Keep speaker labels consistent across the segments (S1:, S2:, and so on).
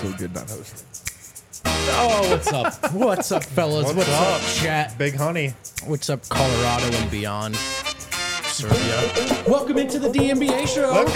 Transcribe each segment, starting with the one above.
S1: so good not hosting.
S2: Oh, what's up? What's up, fellas? What's up, chat?
S3: Big Honey.
S2: What's up, Colorado and beyond? Serbia. Welcome into the DNBA show.
S3: Let's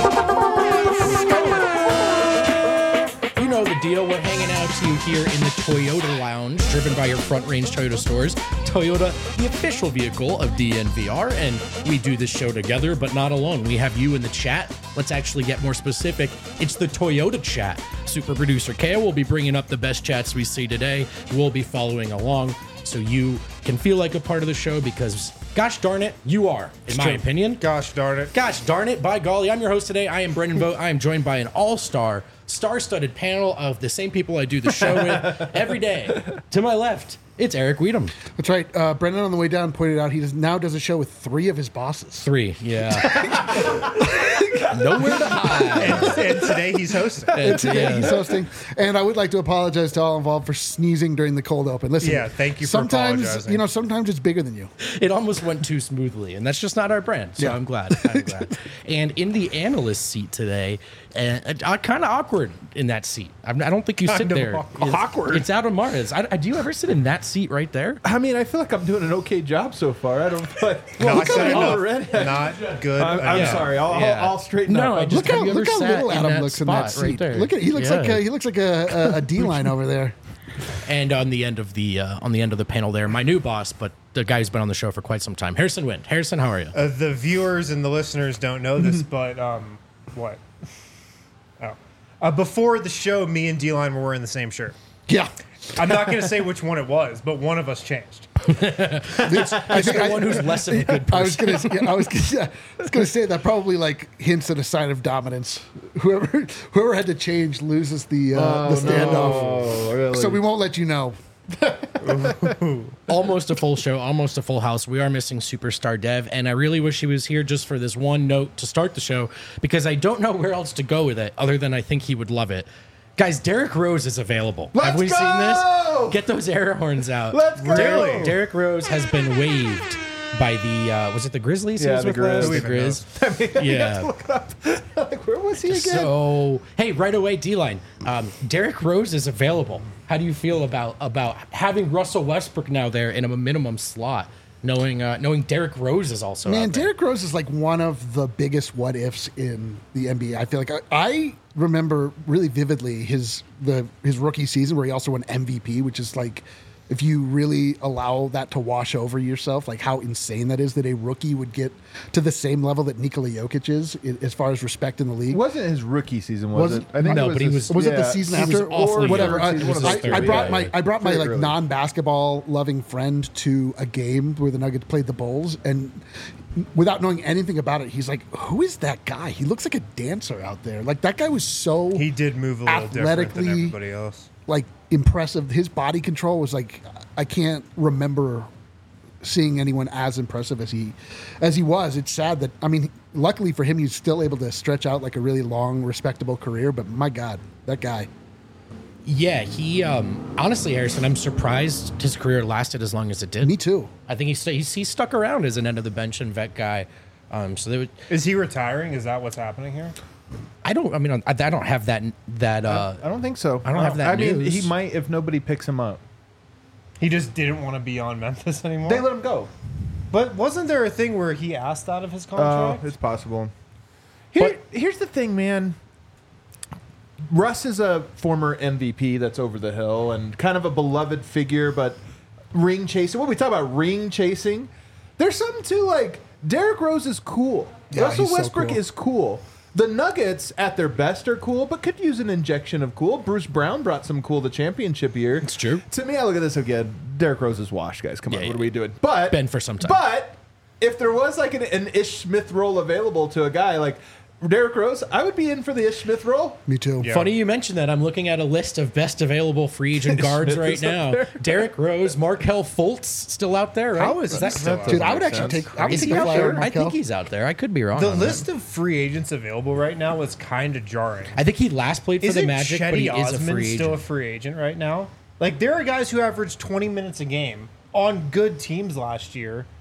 S3: go.
S2: You know the deal. We're hanging out to you here in the Toyota Lounge, driven by your Front Range Toyota stores. Toyota, the official vehicle of DNVR, and we do this show together, but not alone. We have you in the chat. Let's actually get more specific. It's the Toyota chat. Super producer Kale will be bringing up the best chats we see today. We'll be following along so you can feel like a part of the show because, gosh darn it, you are, in my opinion.
S3: Gosh darn it.
S2: Gosh darn it, by golly, I'm your host today. I am Brendan Vogt. I am joined by an all-star, star-studded panel of the same people I do the show with every day. To my left, it's Eric Weedham.
S4: That's right. Brendan on the way down pointed out he now does a show with 3 of his bosses.
S2: 3, yeah. Nowhere to hide.
S3: And today he's hosting.
S4: He's hosting. And I would like to apologize to all involved for sneezing during the cold open. Listen,
S3: Yeah, thank you for
S4: sometimes,
S3: apologizing.
S4: sometimes it's bigger than you.
S2: It almost went too smoothly, and that's just not our brand, so
S4: Yeah.
S2: I'm glad. And in the analyst seat today, kind of awkward in that seat. I don't think you sit
S3: Kind of
S2: there.
S1: awkward.
S2: It's out of Mars. Do you ever sit in that seat right there?
S1: I mean, I feel like I'm doing an okay job so far. I don't feel like...
S3: Not good enough.
S1: already.
S3: Not good
S1: I'm
S3: enough.
S1: sorry.
S2: Yeah.
S1: I'll straighten
S2: No,
S1: up.
S2: I just-
S4: Look
S2: have you ever
S4: how
S2: sat
S4: little
S2: in
S4: Adam
S2: that
S4: looks in that
S2: spot right
S4: seat.
S2: there?
S4: Look at he looks like a D-line over there.
S2: And on the end of the panel there, my new boss, but the guy who's been on the show for quite some time, Harrison Wind. Harrison, how are you?
S3: The viewers and the listeners don't know this, but what? Before the show, me and D-Line were wearing the same shirt.
S4: Yeah.
S3: I'm not going to say which one it was, but one of us changed.
S4: I think
S2: The one who's less of a good person.
S4: I was gonna say that probably like hints at a sign of dominance. Whoever had to change loses the standoff.
S1: Oh, really?
S4: So we won't let you know.
S2: Almost a full show, almost a full house. We are missing Superstar Dev, and I really wish he was here just for this one note to start the show because I don't know where else to go with it other than I think he would love it. Guys, Derrick Rose is available. Have we seen this? Get those air horns out.
S1: Let's go!
S2: Derrick Rose has been waived by the, was it the Grizzlies? he
S1: Yeah,
S2: was
S1: the
S2: with last?
S1: Grizz.
S2: The Grizz. Yeah.
S1: Like, where was he again?
S2: So, hey, right away, D-Line. Derrick Rose is available. How do you feel about having Russell Westbrook now there in a minimum slot, knowing Derrick Rose is also
S4: Man,
S2: out there?
S4: Derrick Rose is like one of the biggest what ifs in the NBA. I feel like I remember really vividly his rookie season where he also won MVP, which is like, if you really allow that to wash over yourself, like how insane that is that a rookie would get to the same level that Nikola Jokic is as far as respect in the league.
S1: It wasn't his rookie season, was it? I think
S2: No,
S1: it
S2: but he
S1: his-
S2: was-
S4: Was it the season
S2: he was
S4: after
S2: awfully
S4: or whatever?
S1: young. It was his third,
S4: I brought
S2: yeah.
S4: my
S1: Very
S4: like
S1: early.
S4: non-basketball loving friend to a game where the Nuggets played the Bulls, and without knowing anything about it, he's like, "Who is that guy? He looks like a dancer out there." Like that guy was so
S3: He did move a little different than
S4: Athletically-
S3: everybody else.
S4: like impressive. His body control was like, I can't remember seeing anyone as impressive as he was. It's sad that, I mean, luckily for him, he's still able to stretch out like a really long, respectable career. But my God, that guy.
S2: Yeah, he honestly, Harrison, I'm surprised his career lasted as long as it did.
S4: Me too.
S2: I think he stuck around as an end of the bench and vet guy. So they would,
S3: Is he retiring? Is that what's happening here?
S2: I don't have that.
S1: I don't think so.
S2: I don't have that
S1: I mean,
S2: news.
S1: he might if nobody picks him up.
S3: He just didn't want to be on Memphis anymore?
S1: They let him go.
S3: But wasn't there a thing where he asked out of his
S1: Oh,
S3: contract?
S1: it's possible. Here's the thing, man. Russ is a former MVP that's over the hill and kind of a beloved figure, but ring chasing. When we talk about ring chasing, there's something to like Derrick Rose is cool.
S4: Yeah,
S1: Russell
S4: he's so
S1: Westbrook
S4: cool.
S1: is cool. The Nuggets at their best are cool, but could use an injection of cool. Bruce Brown brought some cool the championship year.
S2: It's true.
S1: To me, I look at this again. Derrick Rose is washed, guys. Come on,
S2: Yeah,
S1: what
S2: yeah.
S1: are we doing? But
S2: Been for some time.
S1: But if there was like an Ish Smith role available to a guy like Derrick Rose, I would be in for the Ish Smith role.
S4: Me too.
S3: Yeah.
S2: Funny you mentioned that. I'm looking at a list of best available free agent guards
S1: Smith
S2: right
S1: is up
S2: now.
S1: there.
S2: Derrick Rose, Markel Fultz still out there, right?
S3: How is that still out
S4: Dude,
S3: there?
S4: I would
S1: Makes
S4: actually
S1: sense.
S4: take. I would
S2: Is
S4: take
S2: he
S4: a
S2: out
S4: flyer
S2: there?
S4: on
S2: I
S4: Markel.
S2: think he's out there. I could be wrong.
S3: The
S2: on that.
S3: list of free agents available right now is kind of jarring.
S2: I think he last played for the
S3: Isn't
S2: Magic, but he
S3: Chetty
S2: is a
S3: Osman
S2: free
S3: still a
S2: agent.
S3: free agent right now? Like, there are guys who averaged 20 minutes a game on good teams last year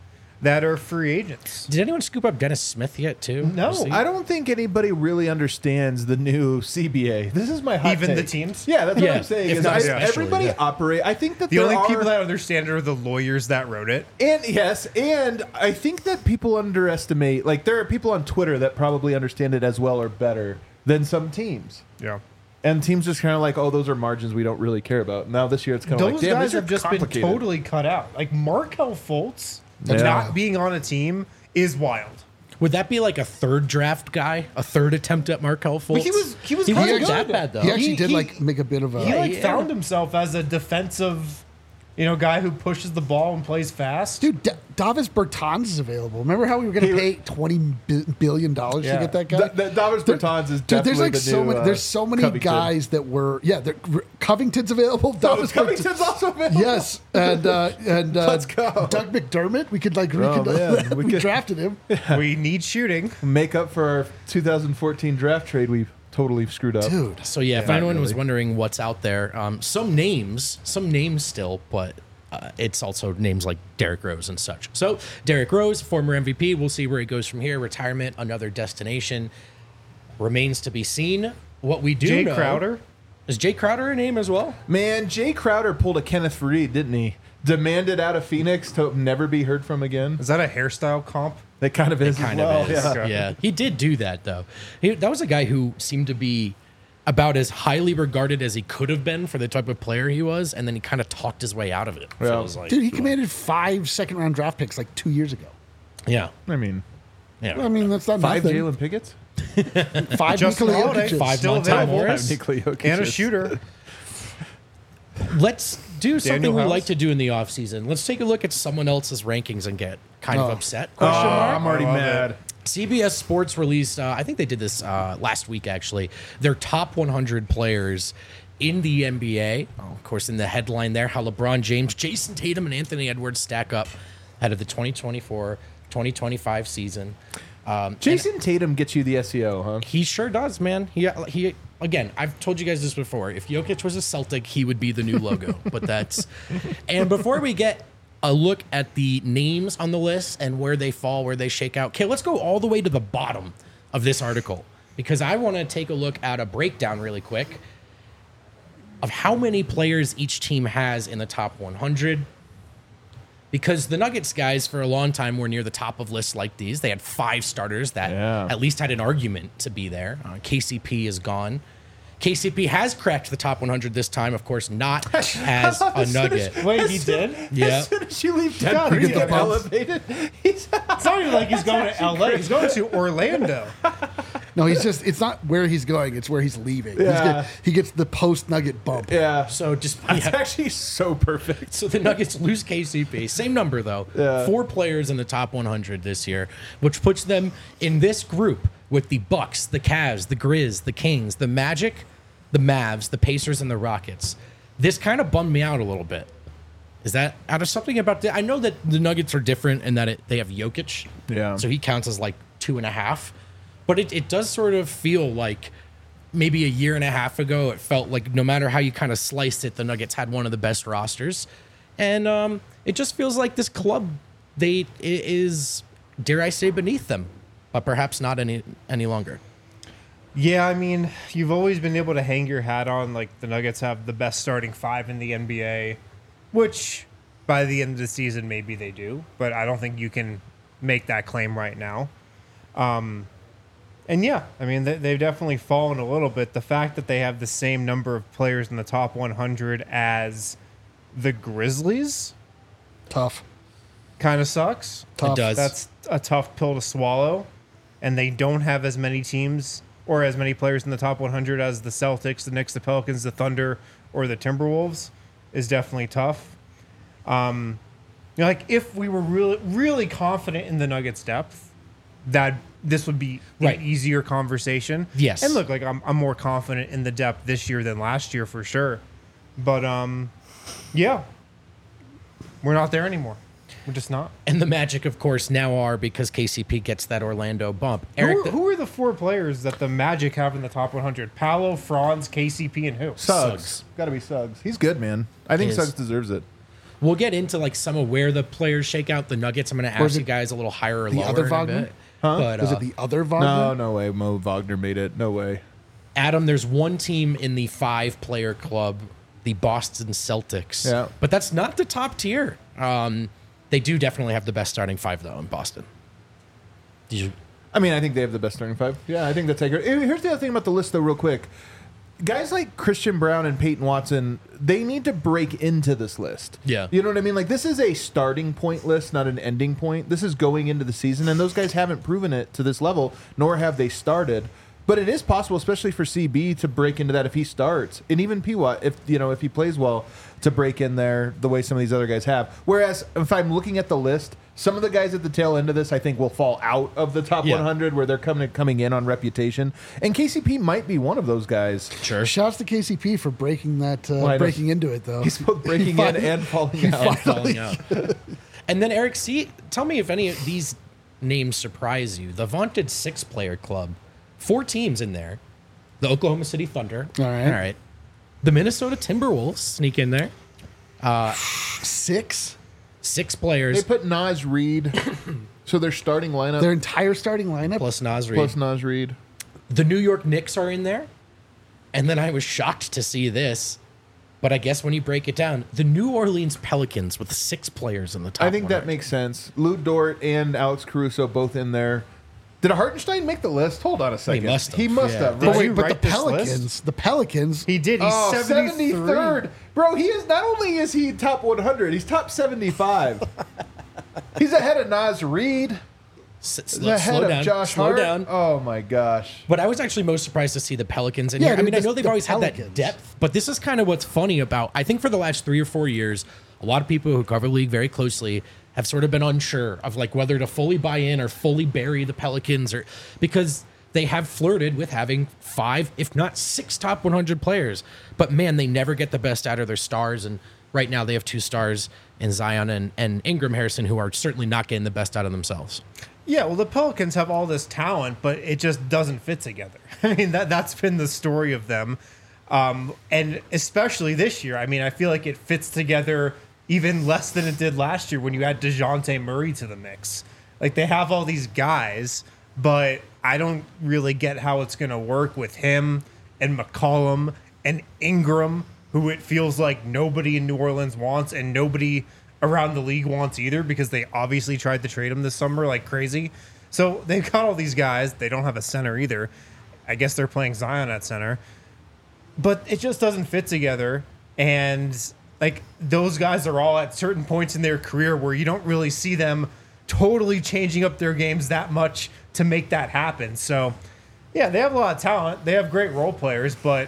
S3: that are free agents.
S2: Did anyone scoop up Dennis Smith yet, too?
S3: No.
S2: Was he-
S1: I don't think anybody really understands the new CBA. This is my hot
S3: Even
S1: take.
S3: the teams?
S1: Yeah, that's
S2: Yeah,
S1: what I'm saying.
S2: if
S1: Is
S2: not
S1: everybody
S2: especially, yeah.
S1: operate. I think that
S3: The
S1: there
S3: only
S1: are,
S3: people that understand it are the lawyers that wrote it.
S1: and yes, and I think that people underestimate. Like there are people on Twitter that probably understand it as well or better than some teams.
S3: Yeah.
S1: And teams just kind of like, oh, those are margins we don't really care about. Now this year it's kind of
S3: Those
S1: like, damn,
S3: guys
S1: these are
S3: have just been
S1: complicated.
S3: totally cut out. Like Markelle Fultz
S1: Yeah.
S3: not being on a team is wild.
S2: Would that be like a third draft guy? A third attempt at Markelle Fultz?
S3: He was
S2: He
S3: kinda
S2: wasn't
S3: good.
S2: that bad, though.
S4: He actually
S3: He-
S4: did
S3: he-
S4: like make a bit of a.
S3: He like
S2: yeah.
S3: found himself as a defensive, guy who pushes the ball and plays fast.
S4: Dude, Davis Bertans is available. Remember how we were going to
S1: He-
S4: pay $20 billion to
S3: Yeah.
S4: get that guy?
S1: Davis Bertans is
S4: Dude,
S1: definitely
S4: there's like
S1: the
S4: so
S1: new,
S4: many. There's so many
S1: Covington.
S4: guys that were. Yeah, Covington's available.
S1: Oh,
S4: Davis
S1: Covington's also available.
S4: Yes, and
S1: Let's go.
S4: Doug McDermott. We could like
S1: Oh, man.
S4: we
S1: We could-
S4: drafted him.
S3: We need shooting.
S1: Make up for our 2014 draft trade we totally screwed up.
S4: Dude,
S2: So yeah, if
S1: Not
S2: anyone was
S1: really.
S2: wondering what's out there, some names still, but it's also names like Derrick Rose and such. So Derrick Rose, former MVP, we'll see where he goes from here. Retirement, another destination, remains to be seen. What we do
S3: Jay
S2: know,
S3: Crowder.
S2: is Jay Crowder a name as well?
S1: Man, Jay Crowder pulled a Kenneth Faried, didn't he? Demanded out of Phoenix to never be heard from again.
S3: Is that a hairstyle comp?
S1: That kind of is
S2: Kind
S1: as well.
S2: of is.
S1: Yeah.
S2: Yeah, he did do that though. That was a guy who seemed to be about as highly regarded as he could have been for the type of player he was, and then he kind of talked his way out of it.
S1: Yeah.
S2: Feels like.
S4: dude, he commanded 5 second-round draft picks like 2 years ago.
S2: Yeah,
S1: I mean,
S2: yeah.
S4: I mean, that's not
S1: 5
S4: nothing.
S1: Jalen Pickett's?
S4: 5
S3: Justin
S4: Nikola
S3: Holiday.
S4: Jokic's.
S2: 5
S3: Still
S2: Montel
S3: available.
S2: Morris.
S1: Nikola Jokic
S3: And a
S1: is.
S3: shooter.
S2: Let's do something
S3: Daniel
S2: we
S3: House?
S2: like to do in the offseason. Let's take a look at someone else's rankings and get kind of
S4: Oh.
S2: upset.
S1: Oh,
S2: Question mark.
S1: I'm already
S3: I love
S1: mad.
S2: CBS Sports released, I think they did this last week actually, their top 100 players in the NBA. Oh, of course, in the headline there, how LeBron James, Jason Tatum, and Anthony Edwards stack up ahead of the 2024-2025 season.
S1: Jason Tatum gets you the SEO, huh?
S2: He sure does, man. He again, I've told you guys this before. If Jokic was a Celtic, he would be the new logo. But that's and before we get a look at the names on the list and where they fall, where they shake out. Okay, let's go all the way to the bottom of this article because I want to take a look at a breakdown really quick of how many players each team has in the top 100. Because the Nuggets guys for a long time were near the top of lists like these. They had 5 starters that
S1: Yeah.
S2: at least had an argument to be there. KCP is gone. KCP has cracked the top 100 this time, of course, not as a Nugget.
S3: Wait, he did?
S2: Yeah.
S1: As soon as you leave
S3: God,
S1: Denver, you
S3: get the
S1: get
S4: bump.
S1: elevated. He's
S3: It's not even like he's going to LA. He's going to Orlando.
S4: No, it's not where he's going, it's where he's leaving.
S1: Yeah.
S4: He gets the post-Nugget bump.
S1: yeah.
S2: So just
S1: It's
S2: yeah.
S1: actually so perfect.
S2: So the Nuggets lose KCP. Same number, though.
S1: Yeah.
S2: 4 players in the top 100 this year, which puts them in this group with the Bucks, the Cavs, the Grizz, the Kings, the Magic, the Mavs, the Pacers, and the Rockets. This kind of bummed me out a little bit. Is that out of something about the? I know that the Nuggets are different in that they have Jokic.
S1: Yeah.
S2: So he counts as like 2.5. But it does sort of feel like maybe a year and a half ago, it felt like no matter how you kind of sliced it, the Nuggets had one of the best rosters. And it just feels like this club, it is, dare I say, beneath them, but perhaps not any longer.
S3: Yeah, I mean, you've always been able to hang your hat on, like, the Nuggets have the best starting 5 in the NBA, which by the end of the season, maybe they do, but I don't think you can make that claim right now. And yeah, I mean, they've definitely fallen a little bit. The fact that they have the same number of players in the top 100 as the Grizzlies
S4: Tough.
S3: kind of sucks.
S4: Tough.
S2: It does.
S3: That's a tough pill to swallow. And they don't have as many teams or as many players in the top 100 as the Celtics, the Knicks, the Pelicans, the Thunder, or the Timberwolves is definitely tough. Like if we were really, really confident in the Nuggets' depth, that this would be
S2: Right.
S3: an easier conversation.
S2: Yes.
S3: And look, like I'm more confident in the depth this year than last year for sure. But yeah, we're not there anymore. We're just not.
S2: And the Magic, of course, now are because KCP gets that Orlando bump. Eric,
S3: Who are the 4 players that the Magic have in the top 100? Paolo, Franz, KCP, and who?
S1: Suggs. Got to be Suggs. He's good, man. I think
S2: He is.
S1: Suggs deserves it.
S2: We'll get into like some of where the players shake out. The Nuggets, I'm going to ask you guys a little higher or
S4: the
S2: lower
S4: other
S2: in a
S4: Wagner?
S2: bit. But,
S4: Was it the other Wagner?
S1: No, no way. Mo Wagner made it. No way.
S2: Adam, there's one team in the 5-player club, the Boston Celtics.
S1: Yeah.
S2: But that's not the top tier. They do definitely have the best starting 5, though, in Boston. Did you?
S1: I mean, I think they have the best starting 5. Yeah, I think that's accurate. Here's the other thing about the list, though, real quick. Guys like Christian Brown and Peyton Watson, they need to break into this list.
S2: Yeah.
S1: You know what I mean? Like, this is a starting point list, not an ending point. This is going into the season, and those guys haven't proven it to this level, nor have they started. But it is possible, especially for CB, to break into that if he starts, and even P-Watt, if he plays well, to break in there the way some of these other guys have. Whereas if I'm looking at the list, some of the guys at the tail end of this, I think, will fall out of the top 100 where they're coming in on reputation, and KCP might be one of those guys.
S2: Sure.
S4: Shouts to KCP for breaking that,
S1: I know.
S4: breaking into it though.
S1: He's both breaking in and falling out.
S2: Falling out. And then, Eric, tell me if any of these names surprise you. The vaunted 6-player club. 4 teams in there. The Oklahoma City Thunder.
S4: All right.
S2: The Minnesota Timberwolves sneak in there.
S4: 6?
S2: 6 players
S1: They put Naz Reid, so their starting lineup
S4: Their entire starting lineup?
S2: plus Naz Reid.
S1: plus Naz Reid.
S2: The New York Knicks are in there. And then I was shocked to see this. But I guess when you break it down, the New Orleans Pelicans with 6 players in the top
S1: I think that
S2: 100.
S1: makes sense. Lou Dort and Alex Caruso both in there. Did Hartenstein make the list? Hold on a second.
S2: must have.
S1: He must
S2: Yeah.
S1: have.
S3: Did
S1: Right?
S3: you
S4: But
S3: write
S4: the
S3: this
S4: Pelicans,
S3: list? He did. He's 73rd.
S1: 73rd. Bro, he is not only is he top 100, he's top 75. He's ahead of Naz Reid. He's ahead
S2: Slow
S1: of
S2: down.
S1: Josh
S2: Slow
S1: Hart.
S2: down.
S1: Oh my gosh.
S2: But I was actually most surprised to see the Pelicans in
S4: Yeah,
S2: here. I
S4: dude,
S2: mean, I
S4: the-
S2: know they've
S4: the
S2: always had that
S4: Pelicans.
S2: depth, but this is kind of what's funny about, I think for the last 3 or 4 years, a lot of people who cover the league very closely have sort of been unsure of like whether to fully buy in or fully bury the Pelicans, or because they have flirted with having 5, if not 6 top 100 players. But man, they never get the best out of their stars. And right now they have 2 stars in Zion and Ingram Harrison, who are certainly not getting the best out of themselves.
S3: Yeah, well, the Pelicans have all this talent, but it just doesn't fit together. I mean, that's been the story of them. And especially this year, I mean, I feel like it fits together even less than it did last year when you add DeJounte Murray to the mix. Like, they have all these guys, but I don't really get how it's going to work with him and McCollum and Ingram, who it feels like nobody in New Orleans wants and nobody around the league wants either, because they obviously tried to trade him this summer like crazy. So they've got all these guys. They don't have a center either. I guess they're playing Zion at center. But it just doesn't fit together. And like, those guys are all at certain points in their career where you don't really see them totally changing up their games that much to make that happen. So yeah, they have a lot of talent. They have great role players, but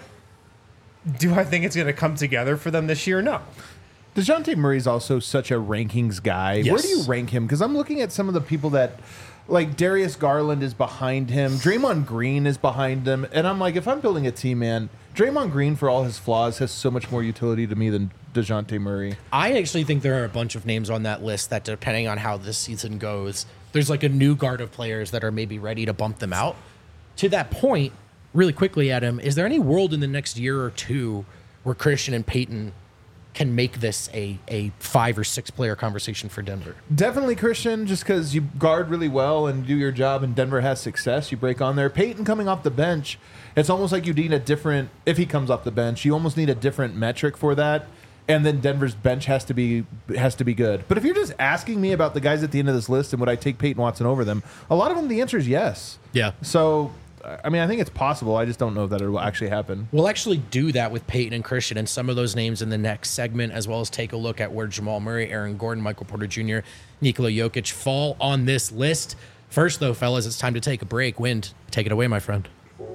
S3: do I think it's going to come together for them this year? No.
S1: DeJounte Murray's also such a rankings guy.
S2: Yes.
S1: Where do you rank him? Because I'm looking at some of the people that, like, Darius Garland is behind him. Draymond Green is behind him. And I'm like, if I'm building a team, man, Draymond Green, for all his flaws, has so much more utility to me than DeJounte Murray.
S2: I actually think there are a bunch of names on that list that, depending on how this season goes, there's like a new guard of players that are maybe ready to bump them out. To that point, really quickly, Adam, is there any world in the next year or two where Christian and Peyton can make this a 5 or 6 player conversation for Denver?
S1: Definitely Christian, just because you guard really well and do your job and Denver has success, you break on there. Peyton coming off the bench, it's almost like you need a different, if he comes off the bench, you almost need a different metric for that. And then Denver's bench has to be good. But if you're just asking me about the guys at the end of this list and would I take Peyton Watson over them, a lot of them, the answer is yes.
S2: Yeah.
S1: So, I mean, I think it's possible. I just don't know that it will actually happen.
S2: We'll actually do that with Peyton and Christian and some of those names in the next segment, as well as take a look at where Jamal Murray, Aaron Gordon, Michael Porter Jr., Nikola Jokic fall on this list. First, though, fellas, it's time to take a break. Wind, take it away, my friend.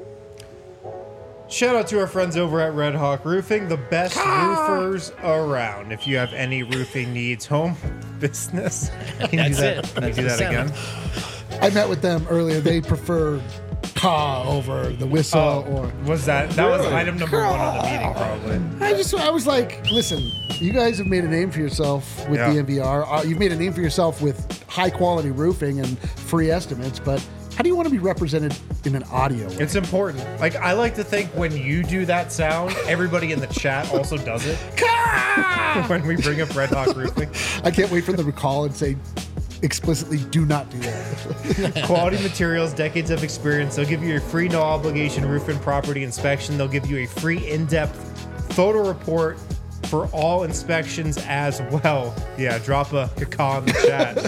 S3: Shout out to our friends over at Red Hawk Roofing, the best roofers around. If you have any roofing needs, home, business, can you
S2: That's
S3: do that,
S2: it.
S3: Can you do that
S2: Sound.
S3: again?
S4: I met with them earlier. They prefer "ka" over the whistle. Or
S3: Was that was item number 1 on the meeting, probably.
S4: I was like, listen, you guys have made a name for yourself with
S3: Yeah.
S4: DNVR. You've made a name for yourself with high quality roofing and free estimates, but how do you want to be represented in an audio way?
S3: It's important. Like, I like to think when you do that sound, everybody in the chat also does it. when we bring up Red Hawk Roofing.
S4: I can't wait for them to call and say explicitly, do not do that.
S3: Quality materials, decades of experience. They'll give you a free no obligation roof and property inspection. They'll give you a free in-depth photo report for all inspections as well. Yeah, drop a caca in the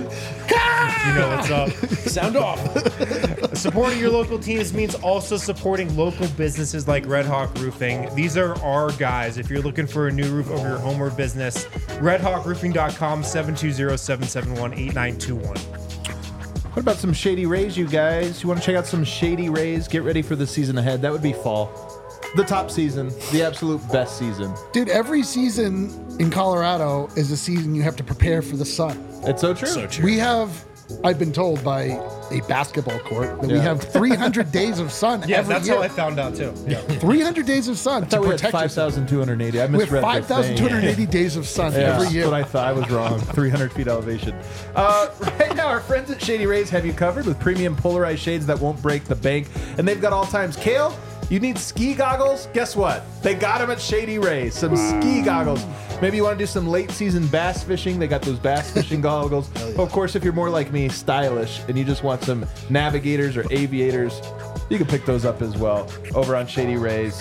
S3: chat. You know what's up.
S2: Sound off.
S3: Supporting your local teams means also supporting local businesses like Red Hawk Roofing. These are our guys. If you're looking for a new roof over your home or business, redhawkroofing.com, 720-771-8921.
S1: What about some Shady Rays, you guys? You want to check out some Shady Rays? Get ready for the season ahead. That would be fall. The top season, the absolute best season.
S4: Dude, every season in Colorado is a season you have to prepare for the sun.
S1: It's so true.
S2: So true.
S4: We have, I've been told by a basketball court that we
S1: Yeah.
S4: have 300 days of sun
S3: Yeah,
S4: every
S3: that's
S4: year.
S3: how I found out too.
S4: 300 days of sun
S1: I
S4: to
S1: thought we had
S4: protect yourself.
S1: 5,280. I
S4: We have
S1: misread the thing.
S4: 5,280 days of sun
S1: Yeah,
S4: every
S1: that's
S4: year.
S1: what I thought. I was wrong. 300 feet elevation. Right now, our friends at Shady Rays have you covered with premium polarized shades that won't break the bank. And they've got all times. Kale, you need ski goggles? Guess what? They got them at Shady Rays. Some ski goggles. Maybe you want to do some late season bass fishing. They got those bass fishing goggles. Of course, if you're more like me, stylish, and you just want some navigators or aviators, you can pick those up as well over on Shady Rays.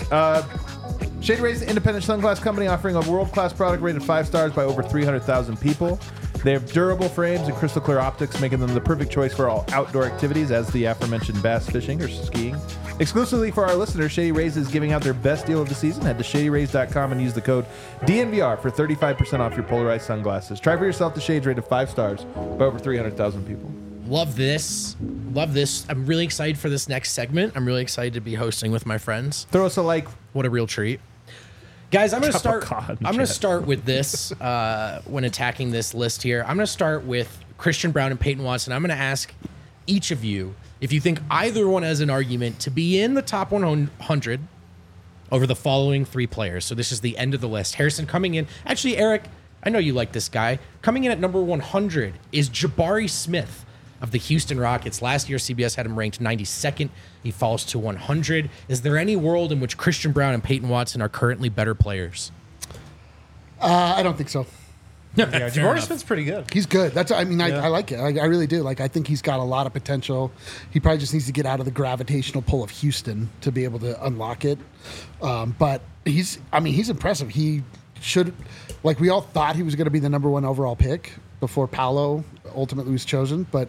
S1: Shady Rays is an independent sunglass company offering a world-class product rated 5 stars by over 300,000 people. They have durable frames and crystal clear optics, making them the perfect choice for all outdoor activities, as the aforementioned bass fishing or skiing. Exclusively for our listeners, Shady Rays is giving out their best deal of the season. Head to shadyrays.com and use the code DNVR for 35% off your polarized sunglasses. Try for yourself the shades rated 5 stars by over 300,000 people.
S2: Love this. Love this. I'm really excited for this next segment. I'm really excited to be hosting with my friends.
S1: Throw us a like.
S2: What a real treat. Guys, I'm going to
S1: Drop a
S2: start.
S1: cod in
S2: I'm going to
S1: chat.
S2: start with this when attacking this list here. I'm going to start with Christian Brown and Peyton Watson. I'm going to ask each of you if you think either one has an argument to be in the top 100 over the following 3 players. So this is the end of the list. Harrison coming in. Actually, Eric, I know you like this guy. Coming in at number 100 is Jabari Smith of the Houston Rockets. Last year, CBS had him ranked 92nd. He falls to 100. Is there any world in which Christian Brown and Peyton Watson are currently better players?
S4: I don't think so.
S3: Yeah,
S2: Fair
S3: Jabari
S2: enough.
S3: Smith's pretty good.
S4: He's good. That's. I mean,
S3: Yeah.
S4: I like it. I really do. Like, I think he's got a lot of potential. He probably just needs to get out of the gravitational pull of Houston to be able to unlock it. But he's. I mean, he's impressive. He should. Like, we all thought he was going to be the number 1 overall pick before Paolo ultimately was chosen. But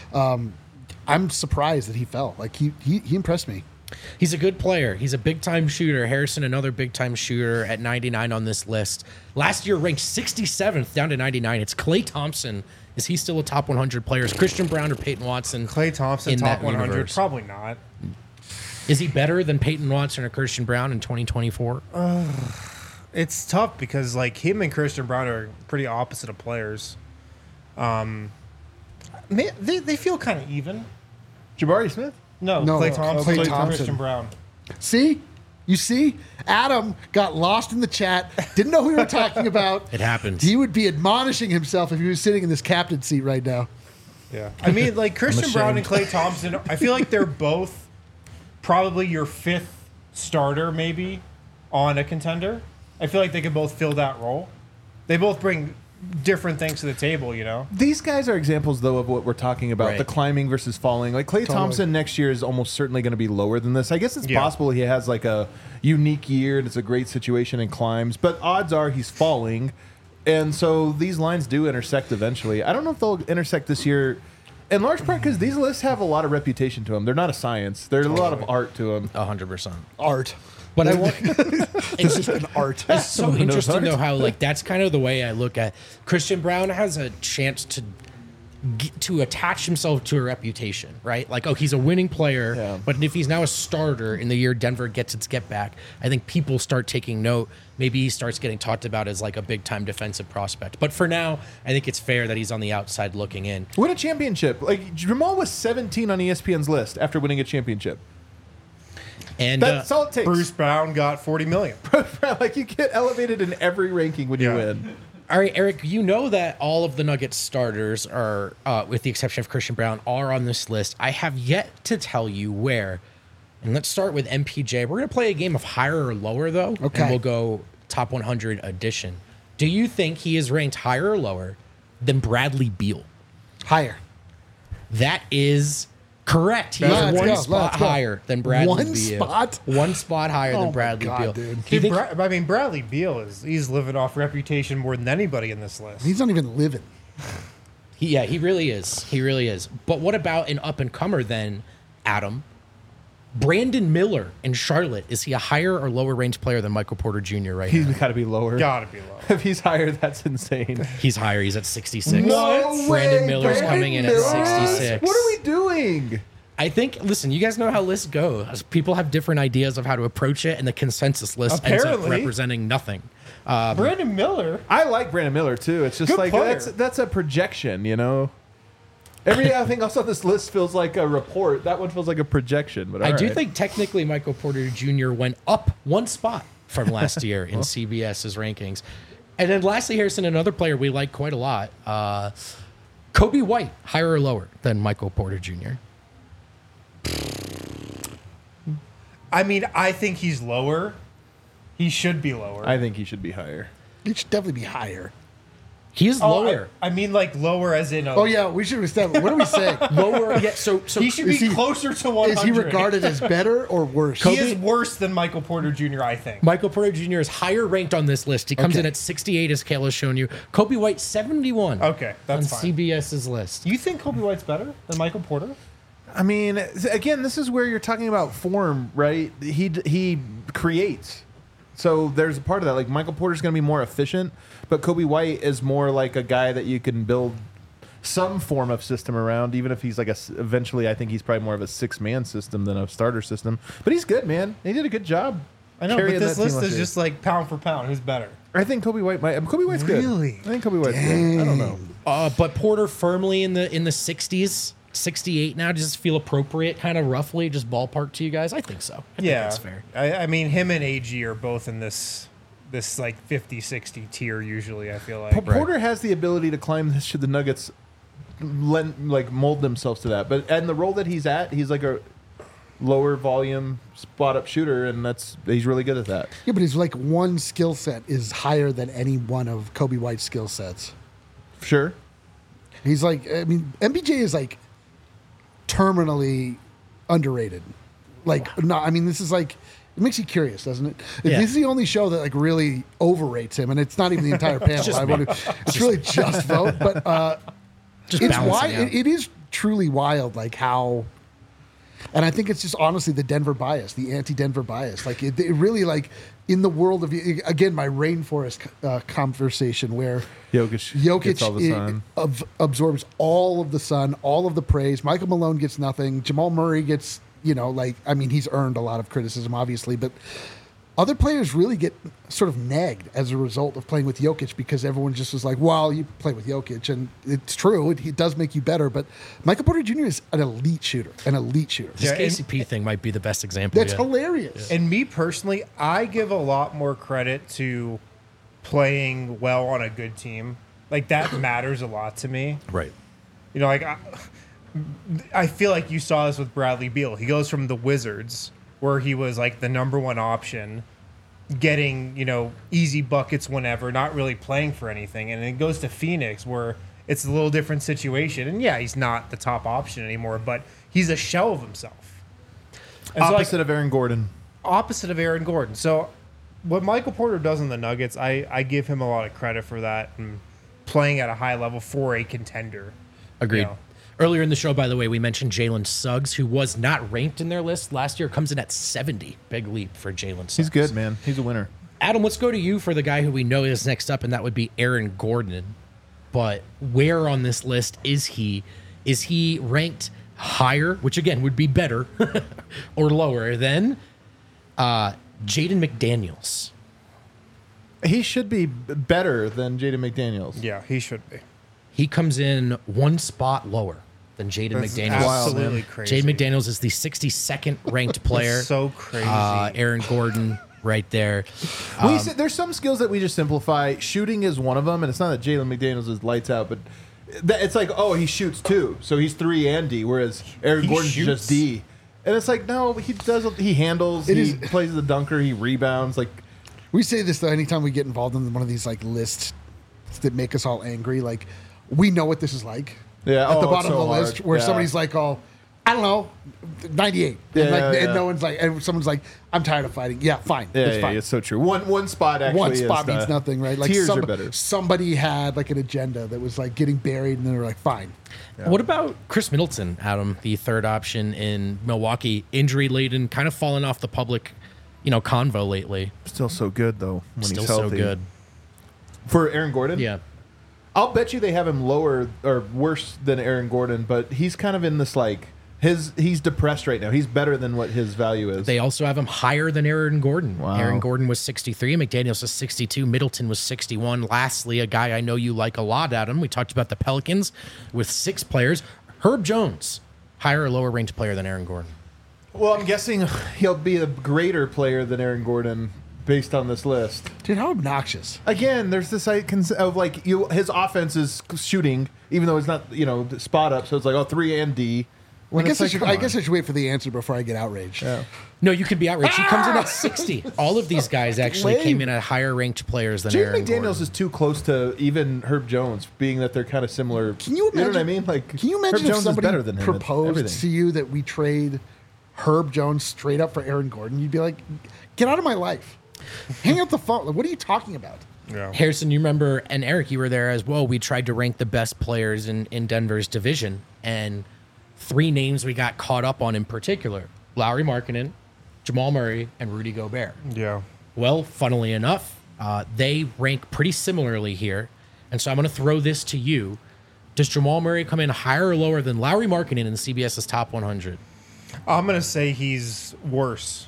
S4: I'm surprised that he fell. Like, he impressed me.
S2: He's a good player. He's a big-time shooter. Harrison, another big-time shooter at 99 on this list. Last year, ranked 67th, down to 99. It's Klay Thompson. Is he still a top 100 player? Is Christian Brown or Peyton Watson?
S3: Klay Thompson,
S2: in
S3: top
S2: that
S3: 100.
S2: universe?
S3: Probably not.
S2: Is he better than Peyton Watson or Christian Brown in 2024?
S3: It's tough because like him and Christian Brown are pretty opposite of players. They feel kind of even.
S1: Jabari Smith?
S3: No,
S4: No,
S3: Klay Thompson,
S4: Klay Thompson.
S3: Christian Brown.
S4: See? You see? Adam got lost in the chat. Didn't know who we were talking about.
S2: It happens.
S4: He would be admonishing himself if he was sitting in this captain seat right now.
S3: Yeah, I mean, like Christian Brown and
S1: ashamed.
S3: Klay Thompson. I feel like they're both probably your 5th starter, maybe on a contender. I feel like they could both fill that role. They both bring different things to the table, you know.
S1: These guys are examples, though, of what we're talking about,
S2: Right.
S1: the climbing versus falling. Like, Klay Thompson next year is almost certainly going to be lower than this. I guess it's
S3: Yeah.
S1: possible he has, like, a unique year and it's a great situation and climbs, but odds are he's falling. And so these lines do intersect eventually. I don't know if they'll intersect this year, in large part because these lists have a lot of reputation to them. They're not a science. There's a lot of art to them.
S2: 100%.
S4: Art.
S2: But I want.
S4: This is an art.
S2: It's so
S1: Someone who knows
S2: interesting,
S1: art.
S2: though, how like that's kind of the way I look at Christian Brown has a chance to attach himself to a reputation, right? Like, oh, he's a winning player,
S1: Yeah.
S2: but if he's now a starter in the year Denver gets its get back, I think people start taking note. Maybe he starts getting talked about as like a big time defensive prospect. But for now, I think it's fair that he's on the outside looking in.
S1: Win a championship. Like, Jamal was 17 on ESPN's list after winning a championship.
S2: And
S1: That's all it takes.
S3: Bruce Brown got $40 million.
S1: Like, you get elevated in every ranking when you
S3: Yeah.
S1: win.
S2: all right, Eric, you know that all of the Nuggets starters are, with the exception of Christian Brown, are on this list. I have yet to tell you where. And let's start with MPJ. We're going to play a game of higher or lower, though.
S4: Okay.
S2: And we'll go top 100 addition. Do you think he is ranked higher or lower than Bradley Beal?
S4: Higher.
S2: That is correct. He
S4: Let's
S2: is one
S4: go,
S2: spot
S4: let's go.
S2: higher than Bradley
S4: One
S2: Beal.
S4: spot?
S2: One spot higher
S4: Oh
S2: than
S4: my
S2: Bradley
S4: God,
S2: Beal.
S4: dude.
S2: Do you think-
S3: I mean, Bradley Beal he's living off reputation more than anybody in this list.
S4: He's not even living.
S2: he really is. He really is. But what about an up and comer then, Adam? Brandon Miller in Charlotte, is he a higher or lower range player than Michael Porter Jr. right
S1: He's
S2: now?
S1: got to be lower.
S3: Gotta be low.
S1: If he's higher, that's insane.
S2: He's higher. He's at 66.
S1: No
S2: Brandon
S1: way,
S2: Miller's
S1: Brandon
S2: coming in at
S1: Miller?
S2: 66.
S1: What are we doing?
S2: I think, listen, you guys know how lists go. People have different ideas of how to approach it, and the consensus list ends up
S3: Apparently.
S2: representing nothing.
S3: Brandon Miller.
S1: I like Brandon Miller too. It's just
S3: Good
S1: like
S3: player.
S1: that's a projection, you know. Everything else on this list feels like a report. That one feels like a projection. But
S2: I
S1: all
S2: do
S1: right.
S2: think technically Michael Porter Jr. went up one spot from last year in CBS's rankings. And then lastly, Harrison, another player we like quite a lot, Kobe White, higher or lower than Michael Porter Jr.?
S3: I mean, I think he's lower. He should be lower.
S1: I think he should be higher.
S4: He should definitely be higher.
S2: He is
S3: Oh,
S2: lower.
S3: I mean, like lower as in.
S4: Oh yeah, we should establish. What are we saying?
S2: Lower. Yeah, so
S3: He should be
S4: Is he-
S3: closer to 100.
S4: Is he regarded as better or worse?
S3: He is worse than Michael Porter Jr., I think.
S2: Michael Porter Jr. is higher ranked on this list. He comes
S4: Okay.
S2: in at 68, as Kayla's shown you. Kobe White, 71.
S3: Okay, that's
S2: on
S3: fine.
S2: CBS's list.
S3: You think Kobe White's better than Michael Porter?
S1: I mean, again, this is where you're talking about form, right? He creates. So there's a part of that. Like Michael Porter's going to be more efficient, but Kobe White is more like a guy that you can build some form of system around. Even if he's like eventually, I think he's probably more of a 6-man system than a starter system. But he's good, man. He did a good job.
S3: I know,
S1: carrying
S3: but this
S1: that team
S3: list
S1: last
S3: is
S1: year.
S3: just like pound for pound. Who's better?
S1: I think Kobe White might. Kobe White's good.
S3: Really?
S1: I think Kobe White's good. I don't know.
S2: But Porter firmly in the 60s, 68 now. Does this feel appropriate, kind of roughly, just ballpark to you guys? I think so. I think that's fair.
S3: I mean, him and AG are both in this like 50-60 tier usually, I feel like.
S1: Porter has the ability to climb this. Should the Nuggets mold themselves to that? But and the role that he's at, he's like a lower volume spot up shooter, and he's really good at that.
S4: Yeah, but his like one skill set is higher than any one of Kobe White's skill sets.
S1: Sure.
S4: He's like, I mean, MPJ is like terminally underrated. Like, no, I mean, this is like, it makes you curious, doesn't it?
S2: Yeah.
S4: This is the only show that like really overrates him, and it's not even the entire panel.
S2: just
S4: I
S2: me.
S4: want to, it's really just vote, but
S2: Just
S4: it's
S2: balancing
S4: wild.
S2: out.
S4: It is truly wild, like how. And I think it's just honestly the Denver bias, the anti-Denver bias. Like it really like in the world of again my rainforest conversation where
S1: Jokic gets all the sun.
S4: absorbs all of the sun, all of the praise. Michael Malone gets nothing. Jamal Murray gets he's earned a lot of criticism obviously, but other players really get sort of nagged as a result of playing with Jokic because everyone just was like, well, you play with Jokic. And it's true. It does make you better. But Michael Porter Jr. is an elite shooter.
S2: This
S3: Yeah, and-
S2: KCP thing might be the best example.
S4: That's
S2: yet.
S4: hilarious.
S3: And me personally, I give a lot more credit to playing well on a good team. Like that matters a lot to me.
S2: Right.
S3: You know, like I feel like you saw this with Bradley Beal. He goes from the Wizards, where he was like the number one option, getting, easy buckets whenever, not really playing for anything. And then goes to Phoenix, where it's a little different situation. And yeah, he's not the top option anymore, but he's a shell of himself. And so, like,
S1: Opposite of Aaron Gordon.
S3: opposite of Aaron Gordon. So what Michael Porter does in the Nuggets, I give him a lot of credit for that and playing at a high level for a contender.
S2: Agreed.
S3: You know.
S2: Earlier in the show, by the way, we mentioned Jalen Suggs, who was not ranked in their list last year, comes in at 70. Big leap for Jalen Suggs.
S1: He's good, man. He's a winner.
S2: Adam, let's go to you for the guy who we know is next up, and that would be Aaron Gordon. But where on this list is he? Is he ranked higher, which again would be better, or lower than Jaden McDaniels?
S1: He should be better than Jaden McDaniels.
S3: Yeah, he should be.
S2: He comes in one spot lower than Jaden
S3: That's
S2: McDaniels.
S3: absolutely crazy.
S2: Jaden McDaniels is the 62nd ranked player.
S3: That's so crazy.
S2: Aaron Gordon right there.
S1: There's some skills that we just simplify. Shooting is one of them, and it's not that Jalen McDaniels is lights out, but it's like, oh, he shoots too, so he's 3 and D, whereas Aaron
S3: He
S1: Gordon's
S3: shoots?
S1: just D. And it's like, no, he handles,
S4: It
S1: he
S4: is-
S1: plays the dunker, he rebounds. Like
S4: We say this though anytime we get involved in one of these like lists that make us all angry. Like we know what this is like.
S1: Yeah,
S4: at the
S1: oh,
S4: bottom
S1: it's so
S4: of the
S1: hard.
S4: list where
S1: Yeah.
S4: somebody's like, "Oh, I don't know, 98,"
S1: Yeah,
S4: and, like,
S1: yeah,
S4: and
S1: yeah.
S4: no one's like, and someone's like, "I'm tired of fighting." Yeah, fine,
S1: Yeah,
S4: it's
S1: yeah,
S4: fine.
S1: it's so true. One spot actually.
S4: One
S1: is
S4: spot
S1: the-
S4: means nothing, right? Like
S1: tiers are better.
S4: somebody had like an agenda that was like getting buried, and they were like, "Fine."
S2: What about Chris Middleton, Adam, the third option in Milwaukee, injury laden, kind of fallen off the public, convo lately.
S1: Still so good though when
S2: Still
S1: he's
S2: so
S1: healthy.
S2: good.
S1: For Aaron Gordon.
S2: Yeah.
S1: I'll bet you they have him lower or worse than Aaron Gordon, but he's kind of in this like he's depressed right now. He's better than what his value is.
S2: They also have him higher than Aaron Gordon.
S1: Wow.
S2: Aaron Gordon was 63. McDaniels was 62. Middleton was 61. Lastly, a guy I know you like a lot, Adam. We talked about the Pelicans with 6 players. Herb Jones, higher or lower ranked player than Aaron Gordon?
S1: Well, I'm guessing he'll be a greater player than Aaron Gordon based on this list.
S4: Dude, how obnoxious!
S1: Again, there's this of like his offense is shooting, even though it's not spot up. So it's like 3 and D.
S4: I
S1: When
S4: guess
S1: it's like,
S4: I
S1: come
S4: guess
S1: on.
S4: I should wait for the answer before I get outraged.
S1: Yeah.
S2: No, you could be outraged. He comes in at 60. All of these guys actually
S1: Lame.
S2: came in at higher ranked players than
S1: Jaden
S2: Aaron
S1: McDaniels
S2: Gordon.
S1: is too close to even Herb Jones, being that they're kind of similar.
S4: Can you imagine?
S1: You know what I mean? Like,
S4: Can you
S1: Herb
S4: imagine if
S1: Jones is
S4: somebody
S1: better than him at
S4: proposed
S1: everything.
S4: to you that we trade Herb Jones straight up for Aaron Gordon? You'd be like, "Get out of my life! Hang up the phone! Like, what are you talking about?"
S3: Yeah.
S2: Harrison, you remember, and Eric, you were there as well. We tried to rank the best players in Denver's division, and 3 names we got caught up on in particular: Lauri Markkanen, Jamal Murray, and Rudy Gobert.
S3: Yeah.
S2: Well, funnily enough, they rank pretty similarly here, and so I'm going to throw this to you. Does Jamal Murray come in higher or lower than Lauri Markkanen in CBS's top 100?
S3: I'm going to say he's worse.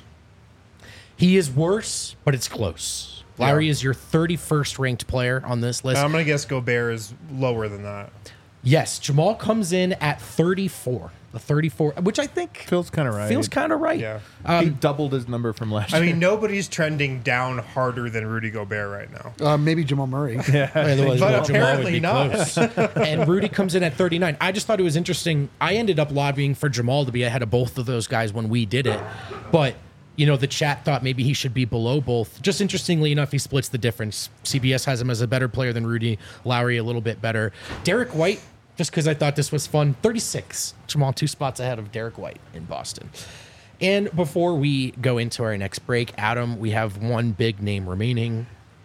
S2: He is worse, but it's close. Lowry is your 31st ranked player on this list.
S3: And I'm going to guess Gobert is lower than that.
S2: Yes, Jamal comes in at 34. The 34, which I think
S1: Feels kind of right.
S2: feels kind of right.
S3: Yeah.
S1: He doubled his number from last
S3: I
S1: year.
S3: mean, nobody's trending down harder than Rudy Gobert right now.
S4: Maybe Jamal Murray.
S2: Otherwise,
S3: But
S2: Jamal would
S3: apparently
S2: be
S3: not.
S2: close. And Rudy comes in at 39. I just thought it was interesting. I ended up lobbying for Jamal to be ahead of both of those guys when we did it. But, the chat thought maybe he should be below both. Just interestingly enough, he splits the difference. CBS has him as a better player than Rudy. Lowry a little bit better. Derek White, just because I thought this was fun, 36. Jamal 2 spots ahead of Derek White in Boston. And before we go into our next break, Adam, we have one big name remaining.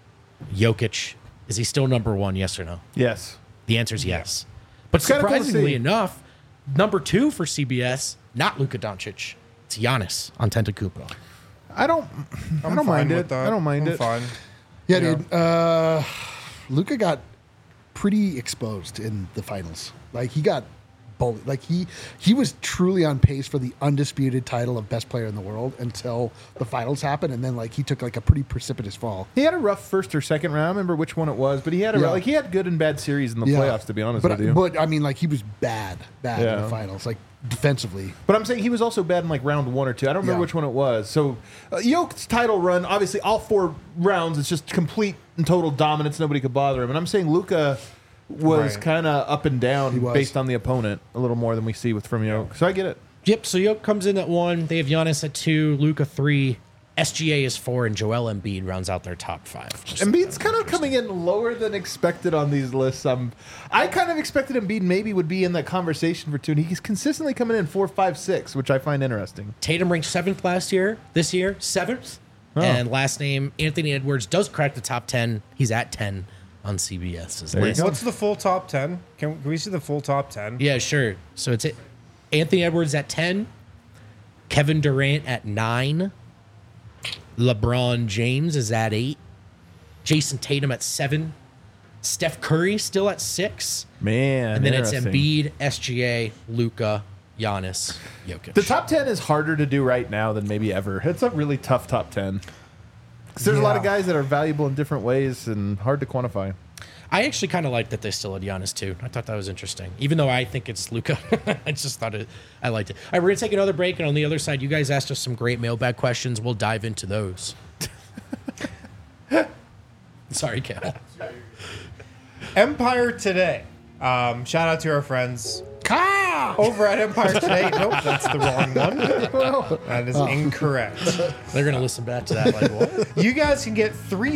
S2: Jokic. Is he still number 1, yes or no?
S1: Yes.
S2: The answer is yes. But
S1: kinda cool to
S2: surprisingly
S1: see.
S2: enough, number 2 for CBS, not Luka Doncic. It's Giannis Antetokounmpo.
S1: I don't
S3: I'm
S1: mind
S3: fine
S1: it.
S3: with that.
S1: I don't mind
S3: I'm
S1: it.
S3: Fine.
S4: Yeah, dude. Luka got pretty exposed in the finals. Like he got bullied. Like he was truly on pace for the undisputed title of best player in the world until the finals happened, and then like he took like a pretty precipitous fall.
S1: He had a rough first or second round. I don't remember which one it was, but he had
S4: Yeah.
S1: he had good and bad series in the
S4: Yeah.
S1: playoffs. To be honest
S4: but,
S1: with you,
S4: but I mean, like he was bad in
S1: Yeah.
S4: the finals, like defensively.
S1: But I'm saying he was also bad in like round 1 or 2. I don't remember
S4: Yeah.
S1: which one it was. So Jokic's title run, obviously all 4 rounds, it's just complete and total dominance. Nobody could bother him. And I'm saying Luka was
S3: Right.
S1: kind of up and down
S4: was.
S1: based on the opponent a little more than we see from Jokic. So I get it.
S2: Yep, so Jokic comes in at 1. They have Giannis at 2, Luka 3, SGA is 4, and Joel Embiid rounds out their top 5.
S1: Embiid's kind of coming in lower than expected on these lists. I kind of expected Embiid maybe would be in that conversation for 2, and he's consistently coming in 4, 5, 6, which I find interesting.
S2: Tatum ranked 7th last year. This year, 7th.
S1: Oh.
S2: And last name, Anthony Edwards, does crack the top 10. He's at 10 on CBS's
S1: you
S2: list.
S1: go.
S3: What's the full top 10? Can we see the full top 10?
S2: Yeah, sure. So it's Anthony Edwards at 10, Kevin Durant at 9, LeBron James is at 8, Jason Tatum at 7, Steph Curry still at 6,
S1: Man,
S2: and then it's
S1: interesting.
S2: Embiid, SGA, Luka, Giannis, Jokic.
S1: The top 10 is harder to do right now than maybe ever. It's a really tough top 10. Because there's a lot of
S3: Yeah.
S1: guys that are valuable in different ways and hard to quantify.
S2: I actually kind of like that they still had Giannis too. I thought that was interesting, even though I think it's Luka. I just thought I liked it. All right, we're gonna take another break, and on the other side, you guys asked us some great mailbag questions. We'll dive into those. Sorry, Cal.
S3: Empire Today. Shout out to our friends.
S4: Kyle!
S3: Over at Empire Today. Nope, that's the wrong one. That is incorrect.
S2: They're gonna listen back to that like what?
S3: You guys can get